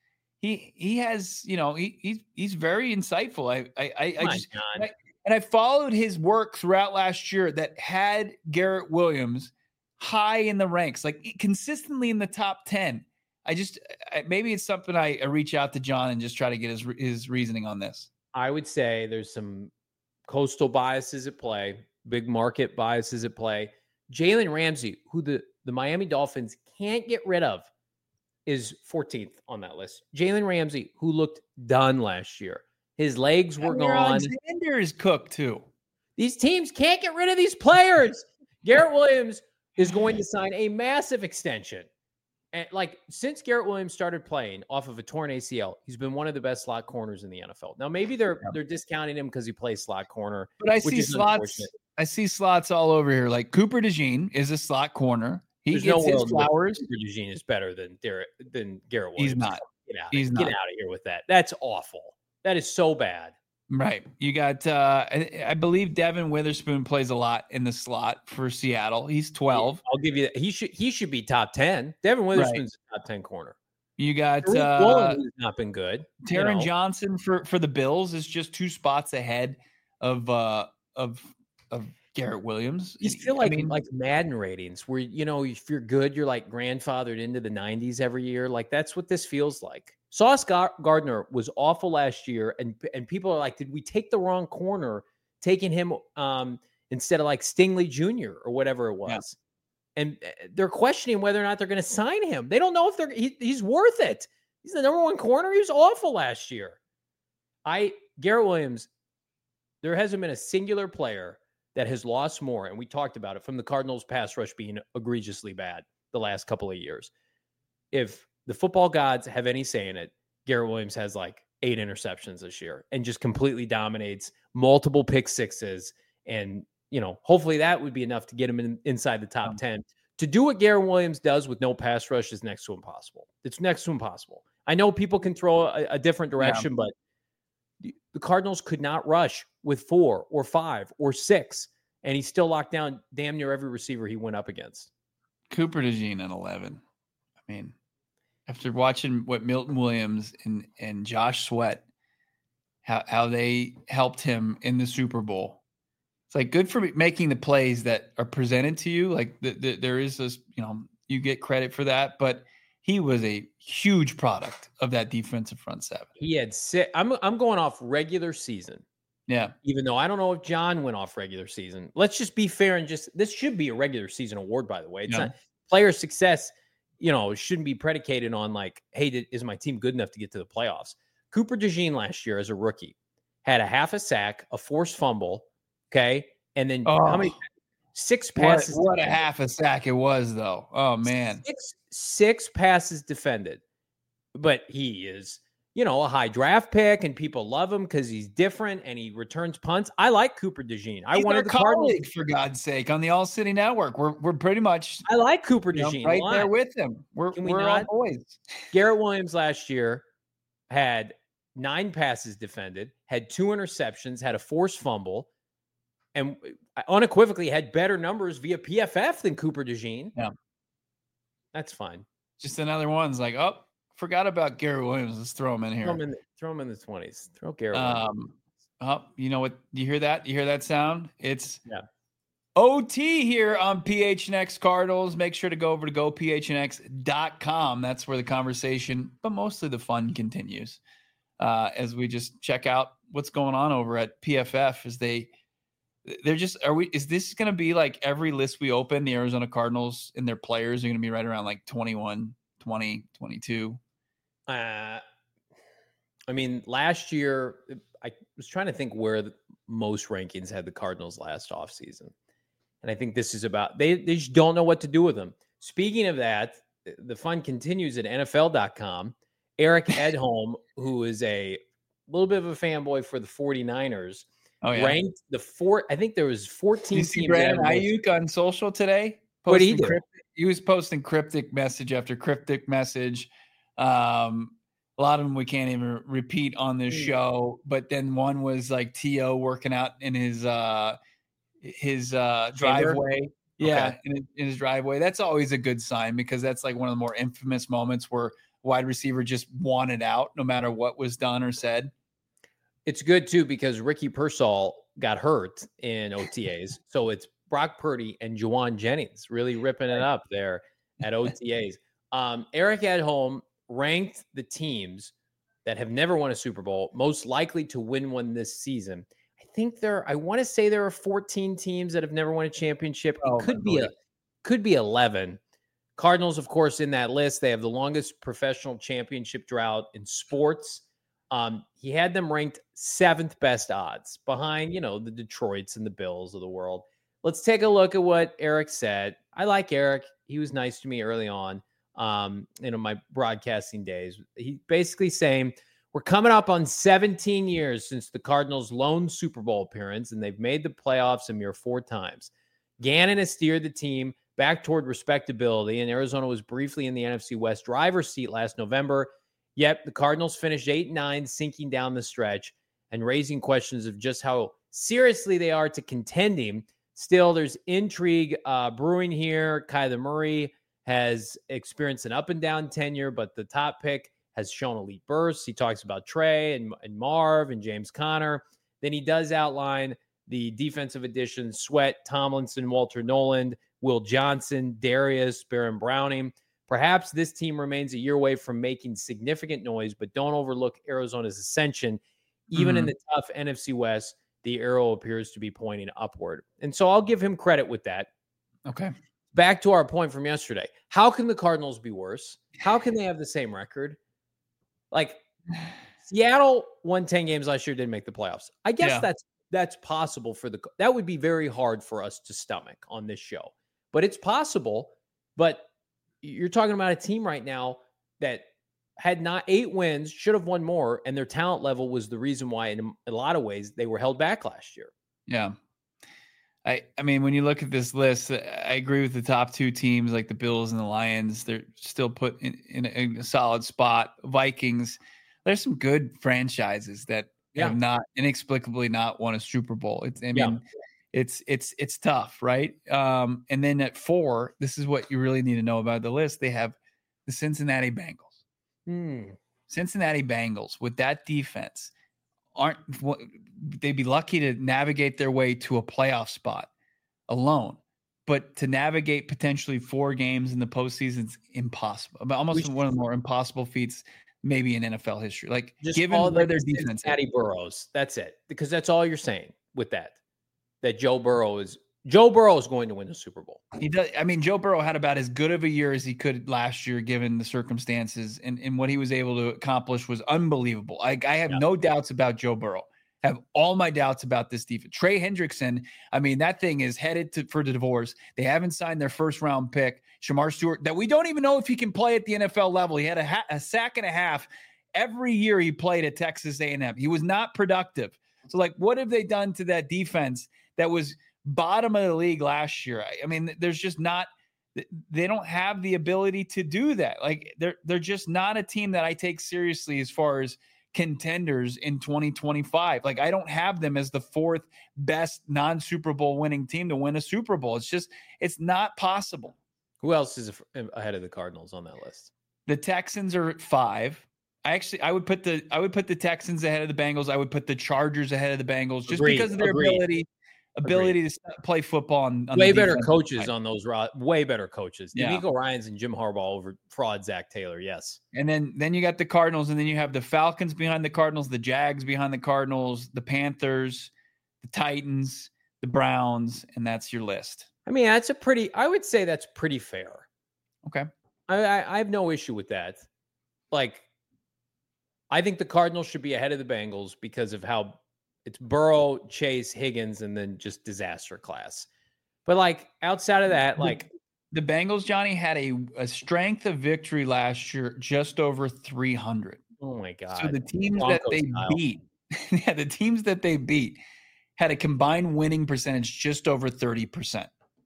[SPEAKER 1] he he has you know he he's he's very insightful. I I I,
[SPEAKER 2] come
[SPEAKER 1] I
[SPEAKER 2] on,
[SPEAKER 1] just
[SPEAKER 2] John.
[SPEAKER 1] and I, and I followed his work throughout last year that had Garrett Williams high in the ranks, like consistently in the top ten. I just I, maybe it's something I, I reach out to John and just try to get his his reasoning on this.
[SPEAKER 2] I would say there's some coastal biases at play, big market biases at play. Jalen Ramsey, who the, the Miami Dolphins can't get rid of, is fourteenth on that list. Jalen Ramsey, who looked done last year. His legs were
[SPEAKER 1] Jair
[SPEAKER 2] gone.
[SPEAKER 1] Alexander is cooked too.
[SPEAKER 2] These teams can't get rid of these players. Garrett Williams is going to sign a massive extension. And like since Garrett Williams started playing off of a torn A C L, he's been one of the best slot corners in the N F L. Now maybe they're
[SPEAKER 1] Yeah.
[SPEAKER 2] they're discounting him because he plays slot corner.
[SPEAKER 1] But I
[SPEAKER 2] which
[SPEAKER 1] see
[SPEAKER 2] is
[SPEAKER 1] slots.
[SPEAKER 2] unfortunate.
[SPEAKER 1] I see slots all over here. Like Cooper DeJean is a slot corner. He
[SPEAKER 2] There's
[SPEAKER 1] gets
[SPEAKER 2] no
[SPEAKER 1] his
[SPEAKER 2] world where
[SPEAKER 1] flowers.
[SPEAKER 2] Cooper DeJean is better than Derek, than Garrett
[SPEAKER 1] He's
[SPEAKER 2] Williams.
[SPEAKER 1] not.
[SPEAKER 2] Get out.
[SPEAKER 1] He's
[SPEAKER 2] Get
[SPEAKER 1] not.
[SPEAKER 2] out of here with that. That's awful. That is so bad.
[SPEAKER 1] Right. You got, uh, I, I believe Devin Witherspoon plays a lot in the slot for Seattle. He's twelve.
[SPEAKER 2] I'll give you that. He should he should be top ten. Devin Witherspoon's a top ten corner.
[SPEAKER 1] You got
[SPEAKER 2] Tariq
[SPEAKER 1] uh,
[SPEAKER 2] Woolen has not been good. you
[SPEAKER 1] Taron
[SPEAKER 2] know.
[SPEAKER 1] Johnson for, for the Bills is just two spots ahead of uh, of of Garrett Williams.
[SPEAKER 2] These
[SPEAKER 1] And,
[SPEAKER 2] feel
[SPEAKER 1] I
[SPEAKER 2] like
[SPEAKER 1] mean,
[SPEAKER 2] like Madden ratings where you know if you're good, you're like grandfathered into the nineties every year. Like that's what this feels like. Sauce Gar- Gardner was awful last year, and and people are like, did we take the wrong corner, taking him um, instead of like Stingley Junior or whatever it was?
[SPEAKER 1] Yeah.
[SPEAKER 2] And they're questioning whether or not they're going to sign him. They don't know if they're he, he's worth it. He's the number one corner. He was awful last year. I Garrett Williams. There hasn't been a singular player that has lost more, and we talked about it, from the Cardinals' pass rush being egregiously bad the last couple of years. If the football gods have any say in it, Garrett Williams has like eight interceptions this year and just completely dominates, multiple pick sixes. And, you know, hopefully that would be enough to get him in, inside the top ten. To do what Garrett Williams does with no pass rush is next to impossible. It's next to impossible. I know people can throw a, a different direction, yeah. but the Cardinals could not rush with four or five or six, and he still locked down damn near every receiver he went up against.
[SPEAKER 1] Cooper DeJean at eleven. I mean, after watching what Milton Williams and, and Josh Sweat, how, how they helped him in the Super Bowl, it's like good for making the plays that are presented to you. Like the, the, there is this, you know, you get credit for that, but he was a huge product of that defensive front seven.
[SPEAKER 2] He had six. I'm I'm going off regular season.
[SPEAKER 1] Yeah.
[SPEAKER 2] Even though I don't know if John went off regular season. Let's just be fair and just this should be a regular season award, by the way. It's
[SPEAKER 1] yeah.
[SPEAKER 2] not player success, you know, shouldn't be predicated on like, hey, did, is my team good enough to get to the playoffs? Cooper DeJean last year as a rookie had a half a sack, a forced fumble, okay, and then
[SPEAKER 1] oh.
[SPEAKER 2] how many six passes?
[SPEAKER 1] What, what a half a sack it was, though. Oh man,
[SPEAKER 2] six six passes defended, but he is, you know, a high draft pick, and people love him because he's different and he returns punts. I like Cooper DeJean. I
[SPEAKER 1] he's
[SPEAKER 2] wanted
[SPEAKER 1] our
[SPEAKER 2] the
[SPEAKER 1] colleague,
[SPEAKER 2] Cardinals
[SPEAKER 1] for God's sake, on the All City Network. We're we're pretty much
[SPEAKER 2] I like Cooper
[SPEAKER 1] you know,
[SPEAKER 2] DeJean
[SPEAKER 1] right
[SPEAKER 2] a lot.
[SPEAKER 1] there with him. We're
[SPEAKER 2] Can we
[SPEAKER 1] we're
[SPEAKER 2] not?
[SPEAKER 1] all boys.
[SPEAKER 2] Garrett Williams last year had nine passes defended, had two interceptions, had a forced fumble, and unequivocally had better numbers via P F F than Cooper DeJean.
[SPEAKER 1] Yeah.
[SPEAKER 2] That's fine.
[SPEAKER 1] Just another one's like, oh, forgot about Garrett Williams. Let's throw him in here.
[SPEAKER 2] Throw him in, the, throw him in the twenties. Throw Garrett Williams.
[SPEAKER 1] Um, oh, you know what? You hear that? You hear that sound? It's
[SPEAKER 2] Yeah.
[SPEAKER 1] O T here on P H N X Cardinals. Make sure to go over to go P H N X dot com. That's where the conversation, but mostly the fun continues uh, as we just check out what's going on over at P F F as they they're just are we is this going to be like every list we open, the Arizona Cardinals and their players are going to be right around like twenty-one, twenty, twenty-two?
[SPEAKER 2] Uh, I mean, last year, I was trying to think where the, most rankings had the Cardinals last offseason. And I think this is about, they, they just don't know what to do with them. Speaking of that, the fun continues at N F L dot com. Eric Edholm, who is a little bit of a fanboy for the 49ers,
[SPEAKER 1] Oh, yeah.
[SPEAKER 2] ranked the four. I think there was fourteen
[SPEAKER 1] Did you see
[SPEAKER 2] teams.
[SPEAKER 1] Brandon
[SPEAKER 2] that had-
[SPEAKER 1] Ayuk on social today?
[SPEAKER 2] What did he
[SPEAKER 1] Posting
[SPEAKER 2] do?
[SPEAKER 1] cryptic- he was posting cryptic message after cryptic message. Um, a lot of them we can't even repeat on this
[SPEAKER 2] Hmm.
[SPEAKER 1] show. But then one was like T O working out in his uh, his uh,
[SPEAKER 2] Chamber?
[SPEAKER 1] driveway. Yeah,
[SPEAKER 2] Okay.
[SPEAKER 1] in, his- in his driveway. That's always a good sign because that's like one of the more infamous moments where wide receiver just wanted out no matter what was done or said.
[SPEAKER 2] It's good too because Ricky Pearsall got hurt in O T As. So it's Brock Purdy and Juwan Jennings really ripping it up there at O T As. Um, Eric at home ranked the teams that have never won a Super Bowl most likely to win one this season. I think there, I want to say there are fourteen teams that have never won a championship. It
[SPEAKER 1] Oh,
[SPEAKER 2] could be a, could be eleven. Cardinals, of course, in that list. They have the longest professional championship drought in sports. Um, he had them ranked seventh best odds behind, you know, the Detroits and the Bills of the world. Let's take a look at what Eric said. I like Eric. He was nice to me early on, um, you know, my broadcasting days. He basically saying, we're coming up on seventeen years since the Cardinals' lone Super Bowl appearance, and they've made the playoffs a mere four times. Gannon has steered the team back toward respectability, and Arizona was briefly in the N F C West driver's seat last November. Yet the Cardinals finished eight and nine, sinking down the stretch and raising questions of just how seriously they are to contending. Still, there's intrigue uh, brewing here. Kyler Murray has experienced an up and down tenure, but the top pick has shown elite bursts. He talks about Trey and, and Marv and James Conner. Then he does outline the defensive additions: Sweat, Tomlinson, Walter Noland, Will Johnson, Darius, Baron Browning. Perhaps this team remains a year away from making significant noise, but don't overlook Arizona's ascension. Even mm-hmm. in the tough N F C West, the arrow appears to be pointing upward. And so I'll give him credit with that.
[SPEAKER 1] Okay.
[SPEAKER 2] Back to our point from yesterday. How can the Cardinals be worse? How can they have the same record? Like, Seattle won ten games last year, didn't make the playoffs. I guess yeah. that's that's possible for the – that would be very hard for us to stomach on this show. But it's possible. But you're talking about a team right now that had not eight wins, should have won more, and their talent level was the reason why, in a lot of ways, they were held back last year.
[SPEAKER 1] Yeah. I, I mean, when you look at this list, I agree with the top two teams like the Bills and the Lions. They're still put in, in, a, in a solid spot. Vikings, there's some good franchises that yeah. have not inexplicably not won a Super Bowl. It's, I mean, yeah. it's it's it's tough, right? Um, and then at four, this is what you really need to know about the list. They have the Cincinnati Bengals.
[SPEAKER 2] Hmm.
[SPEAKER 1] Cincinnati Bengals with that defense. Aren't they'd be lucky to navigate their way to a playoff spot alone, but to navigate potentially four games in the postseason is impossible. Almost one of the more impossible feats maybe in N F L history. Like
[SPEAKER 2] just
[SPEAKER 1] given
[SPEAKER 2] all
[SPEAKER 1] where
[SPEAKER 2] the
[SPEAKER 1] their defense
[SPEAKER 2] Cincinnati Burrows, that's it. Because that's all you're saying with that. That Joe Burrow is Joe Burrow is going to win the Super Bowl.
[SPEAKER 1] He does. I mean, Joe Burrow had about as good of a year as he could last year, given the circumstances, and, and what he was able to accomplish was unbelievable. I, I have yeah. no doubts about Joe Burrow. I have all my doubts about this defense. Trey Hendrickson, I mean, that thing is headed to, for the divorce. They haven't signed their first round pick, Shamar Stewart, that we don't even know if he can play at the N F L level. He had a, ha- a sack and a half every year he played at Texas A and M. He was not productive. So, like, what have they done to that defense that was bottom of the league last year? I mean, there's just not, they don't have the ability to do that. Like they're, they're just not a team that I take seriously as far as contenders in twenty twenty-five. Like I don't have them as the fourth best non-Super Bowl winning team to win a Super Bowl. It's just, it's not possible.
[SPEAKER 2] Who else is ahead of the Cardinals on that list?
[SPEAKER 1] The Texans are at five. I actually, I would put the, I would put the Texans ahead of the Bengals. I would put the Chargers ahead of the Bengals just Agreed. because of their Agreed. ability. Ability Agreed. to play football on, on
[SPEAKER 2] way better coaches side. on those way better coaches.
[SPEAKER 1] Yeah.
[SPEAKER 2] D'Amico Ryans and Jim Harbaugh over fraud Zach Taylor. Yes.
[SPEAKER 1] And then then you got the Cardinals, and then you have the Falcons behind the Cardinals, the Jags behind the Cardinals, the Panthers, the Titans, the Browns, and that's your list.
[SPEAKER 2] I mean, that's a pretty. I would say that's pretty fair.
[SPEAKER 1] Okay.
[SPEAKER 2] I I, I have no issue with that. Like, I think the Cardinals should be ahead of the Bengals because of how. It's Burrow, Chase, Higgins, and then just disaster class. But, like, outside of that, like...
[SPEAKER 1] The Bengals, Johnny, had a, a strength of victory last year just over three hundred.
[SPEAKER 2] Oh, my God.
[SPEAKER 1] So the teams Broncos that they
[SPEAKER 2] style.
[SPEAKER 1] beat, yeah, the teams that they beat had a combined winning percentage just over thirty percent.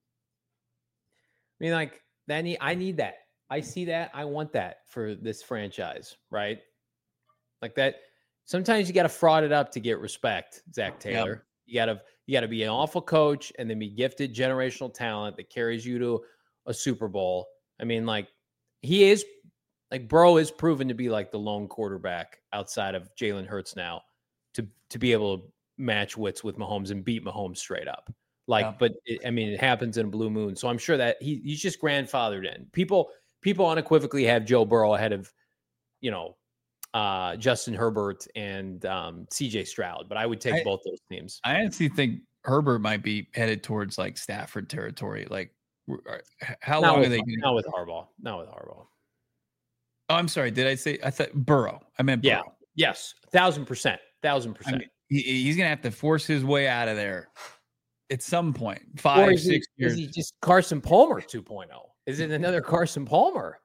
[SPEAKER 2] I mean, like, that need, I need that. I see that. I want that for this franchise, right? Like that... Sometimes you got to fraud it up to get respect, Zach Taylor. You gotta you gotta be an awful coach and then be gifted generational talent that carries you to a Super Bowl. I mean, like he is like Burrow is proven to be like the lone quarterback outside of Jalen Hurts now to to be able to match wits with Mahomes and beat Mahomes straight up. Like, yeah. but it, I mean, it happens in a blue moon. So I'm sure that he he's just grandfathered in. People people unequivocally have Joe Burrow ahead of, you know, uh, Justin Herbert and um, C J Stroud, but I would take I, both those teams.
[SPEAKER 1] I honestly think Herbert might be headed towards like Stafford territory. Like, how
[SPEAKER 2] not
[SPEAKER 1] long
[SPEAKER 2] with,
[SPEAKER 1] are they? Gonna...
[SPEAKER 2] Not with Harbaugh. Not with Harbaugh.
[SPEAKER 1] Oh, I'm sorry. Did I say I thought Burrow? I meant Burrow.
[SPEAKER 2] Yeah. Yes. Thousand percent. Thousand percent.
[SPEAKER 1] I mean, he, he's gonna have to force his way out of there at some point. Five,
[SPEAKER 2] or
[SPEAKER 1] six
[SPEAKER 2] he,
[SPEAKER 1] years.
[SPEAKER 2] Is he just Carson Palmer two point oh? Is it another Carson Palmer?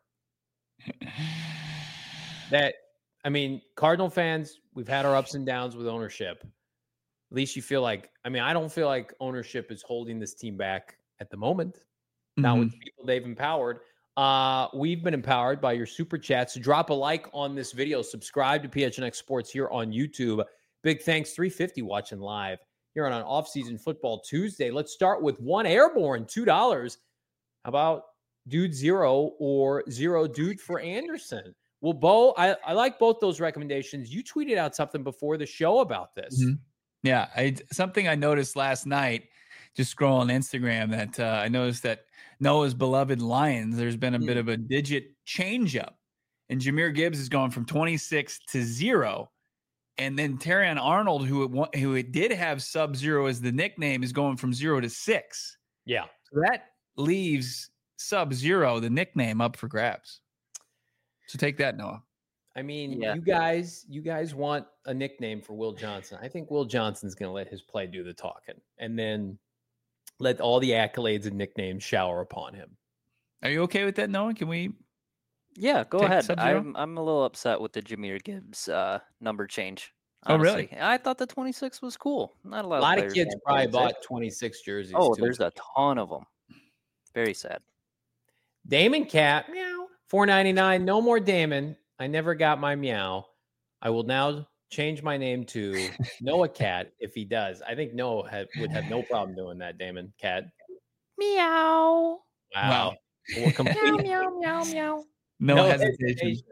[SPEAKER 2] That. I mean, Cardinal fans, we've had our ups and downs with ownership. At least you feel like, I mean, I don't feel like ownership is holding this team back at the moment. Mm-hmm. Not with the people they've empowered. Uh, we've been empowered by your super chats. Drop a like on this video. Subscribe to P H N X Sports here on YouTube. Big thanks, three fifty watching live here on an off-season football Tuesday. Let's start with one airborne, two dollars. How about Dude Zero or Zero Dude for Anderson? Well, Bo, I, I like both those recommendations. You tweeted out something before the show about this.
[SPEAKER 1] Mm-hmm. Yeah, I, something I noticed last night, just scrolling Instagram, that uh, I noticed that Noah's beloved Lions, there's been a mm-hmm. bit of a digit change up. And Jahmyr Gibbs has gone from twenty-six to zero. And then Terrion Arnold, who it, who it did have Sub-Zero as the nickname, is going from zero to six.
[SPEAKER 2] Yeah.
[SPEAKER 1] So that leaves Sub-Zero, the nickname, up for grabs. So take that, Noah.
[SPEAKER 2] I mean,
[SPEAKER 4] yeah.
[SPEAKER 2] you guys, you guys want a nickname for Will Johnson. I think Will Johnson's going to let his play do the talking, and then let all the accolades and nicknames shower upon him.
[SPEAKER 1] Are you okay with that, Noah? Can we?
[SPEAKER 4] Yeah, go ahead. Sub-Zero? I'm I'm a little upset with the Jahmyr Gibbs uh, number change. Honestly.
[SPEAKER 1] Oh, really?
[SPEAKER 4] I thought the twenty-six was cool. Not a lot.
[SPEAKER 2] A lot
[SPEAKER 4] of,
[SPEAKER 2] of kids probably bought twenty-six jerseys.
[SPEAKER 4] Oh,
[SPEAKER 2] too.
[SPEAKER 4] There's a ton of them. Very sad.
[SPEAKER 2] Damon Cat, meow. four ninety-nine. No more Damon. I never got my meow. I will now change my name to Noah Cat if he does. I think Noah had, would have no problem doing that, Damon Cat.
[SPEAKER 4] Meow.
[SPEAKER 2] Wow.
[SPEAKER 1] wow.
[SPEAKER 4] meow, meow, meow, meow.
[SPEAKER 1] No, no hesitation.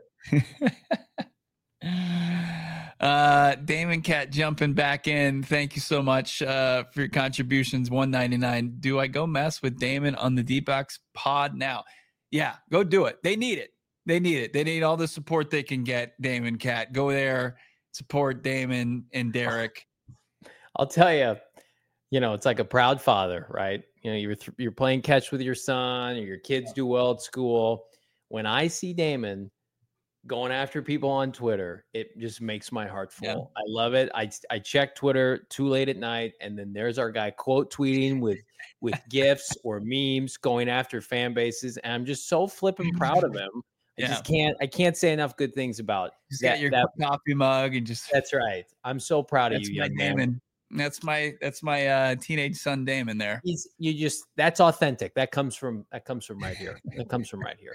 [SPEAKER 1] hesitation. uh, Damon Cat jumping back in. Thank you so much uh, for your contributions. one ninety-nine. Do I go mess with Damon on the D-Box pod now? Yeah, go do it. They need it. They need it. They need all the support they can get, Damon Cat. Go there, support Damon and Derek.
[SPEAKER 2] I'll tell you, you know, it's like a proud father, right? You know, you're th- you're playing catch with your son, or your kids do well at school. When I see Damon going after people on Twitter, it just makes my heart full. Yeah. I love it. I I check Twitter too late at night, and then there's our guy quote tweeting with with gifs or memes going after fan bases, and I'm just so flipping proud of him. I yeah. just can't I can't say enough good things about
[SPEAKER 1] just
[SPEAKER 2] that,
[SPEAKER 1] get your
[SPEAKER 2] that,
[SPEAKER 1] coffee mug and just
[SPEAKER 2] that's right. I'm so proud of you, young
[SPEAKER 1] Damon.
[SPEAKER 2] man.
[SPEAKER 1] That's my that's my uh, teenage son Damon there.
[SPEAKER 2] He's you just that's authentic. That comes from that comes from right here. That comes from right here.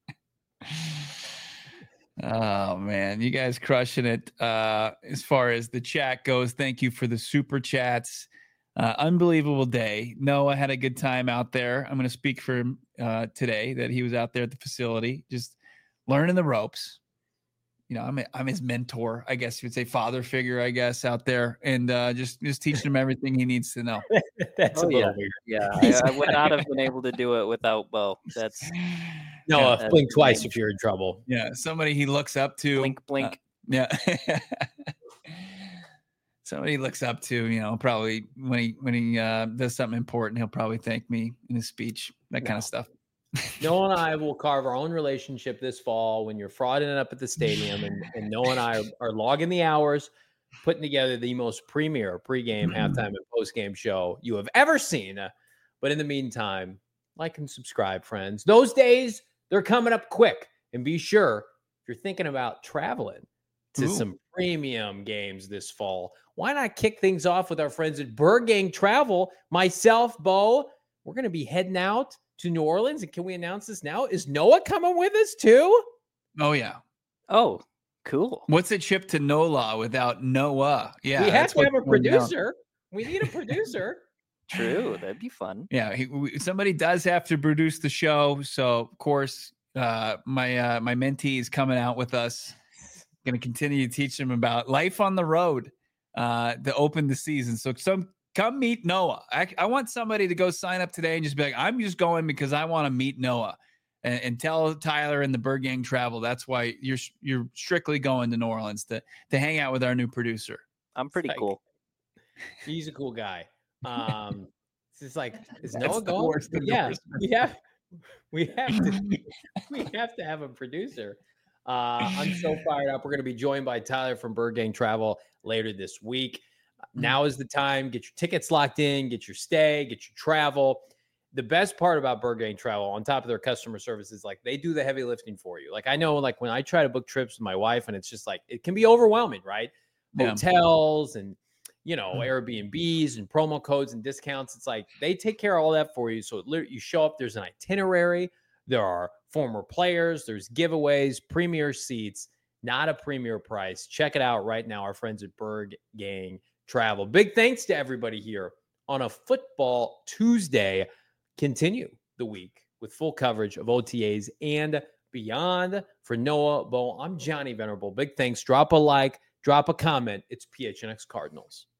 [SPEAKER 1] Oh man, you guys crushing it. Uh, as far as the chat goes, thank you for the super chats. Uh, unbelievable day. Noah had a good time out there. I'm going to speak for him uh, today that he was out there at the facility, just learning the ropes. You know, I'm a, I'm his mentor, I guess you would say, father figure, I guess, out there, and uh, just just teaching him everything he needs to know.
[SPEAKER 2] That's
[SPEAKER 4] oh,
[SPEAKER 2] a little
[SPEAKER 4] yeah.
[SPEAKER 2] weird.
[SPEAKER 4] Yeah, I, I would not have been able to do it without Bo. That's
[SPEAKER 2] no,
[SPEAKER 4] yeah,
[SPEAKER 2] uh,
[SPEAKER 4] that's
[SPEAKER 2] blink twice
[SPEAKER 4] blink.
[SPEAKER 2] if you're in trouble.
[SPEAKER 1] Yeah, somebody he looks up to.
[SPEAKER 4] Blink, blink.
[SPEAKER 1] Uh, yeah. Somebody he looks up to, you know, probably when he when he uh, does something important, he'll probably thank me in his speech, that
[SPEAKER 2] no.
[SPEAKER 1] kind of stuff.
[SPEAKER 2] Noah and I will carve our own relationship this fall when you're frauding it up at the stadium, and, and Noah and I are, are logging the hours, putting together the most premier pregame, halftime, and postgame show you have ever seen. But in the meantime, like and subscribe, friends. Those days, they're coming up quick. And be sure, if you're thinking about traveling to Ooh. some premium games this fall, why not kick things off with our friends at Burgang Travel? Myself, Bo, we're going to be heading out to New Orleans. And can we announce this now? Is Noah coming with us too?
[SPEAKER 1] Oh, yeah.
[SPEAKER 4] Oh, cool.
[SPEAKER 1] What's a trip to NOLA without Noah? Yeah.
[SPEAKER 2] We have to have a producer. We need a producer.
[SPEAKER 4] True, that'd be fun.
[SPEAKER 1] Yeah, he, we, somebody does have to produce the show. So, of course, uh, my uh, my mentee is coming out with us. Going to continue to teach them about life on the road uh, to open the season. So, some come meet Noah. I, I want somebody to go sign up today and just be like, I'm just going because I want to meet Noah, and, and tell Tyler and the Bird Gang Travel that's why you're you're strictly going to New Orleans to to hang out with our new producer.
[SPEAKER 4] I'm pretty
[SPEAKER 2] Like,
[SPEAKER 4] cool.
[SPEAKER 2] He's a cool guy. Um, it's just like, is
[SPEAKER 1] That's
[SPEAKER 2] Noah
[SPEAKER 1] the
[SPEAKER 2] going?
[SPEAKER 1] worst
[SPEAKER 2] Yeah,
[SPEAKER 1] endorsement.
[SPEAKER 2] we have, we have to, we have to have a producer. Uh, I'm so fired up. We're going to be joined by Tyler from Bird Gang Travel later this week. Now is the time. Get your tickets locked in, get your stay, get your travel. The best part about Bird Gang Travel, on top of their customer service, is like they do the heavy lifting for you. Like I know, like when I try to book trips with my wife, and it's just like it can be overwhelming, right?
[SPEAKER 1] Yeah.
[SPEAKER 2] Hotels and you know Airbnbs and promo codes and discounts. It's like they take care of all that for you. So it literally, you show up. There's an itinerary. There are former players. There's giveaways, premier seats, not a premier price. Check it out right now. Our friends at Bird Gang Travel. Big thanks to everybody here on a Football Tuesday. Continue the week with full coverage of O T As and beyond. For Noah Bo, I'm Johnny Venerable. Big thanks. Drop a like, drop a comment. It's P H N X Cardinals.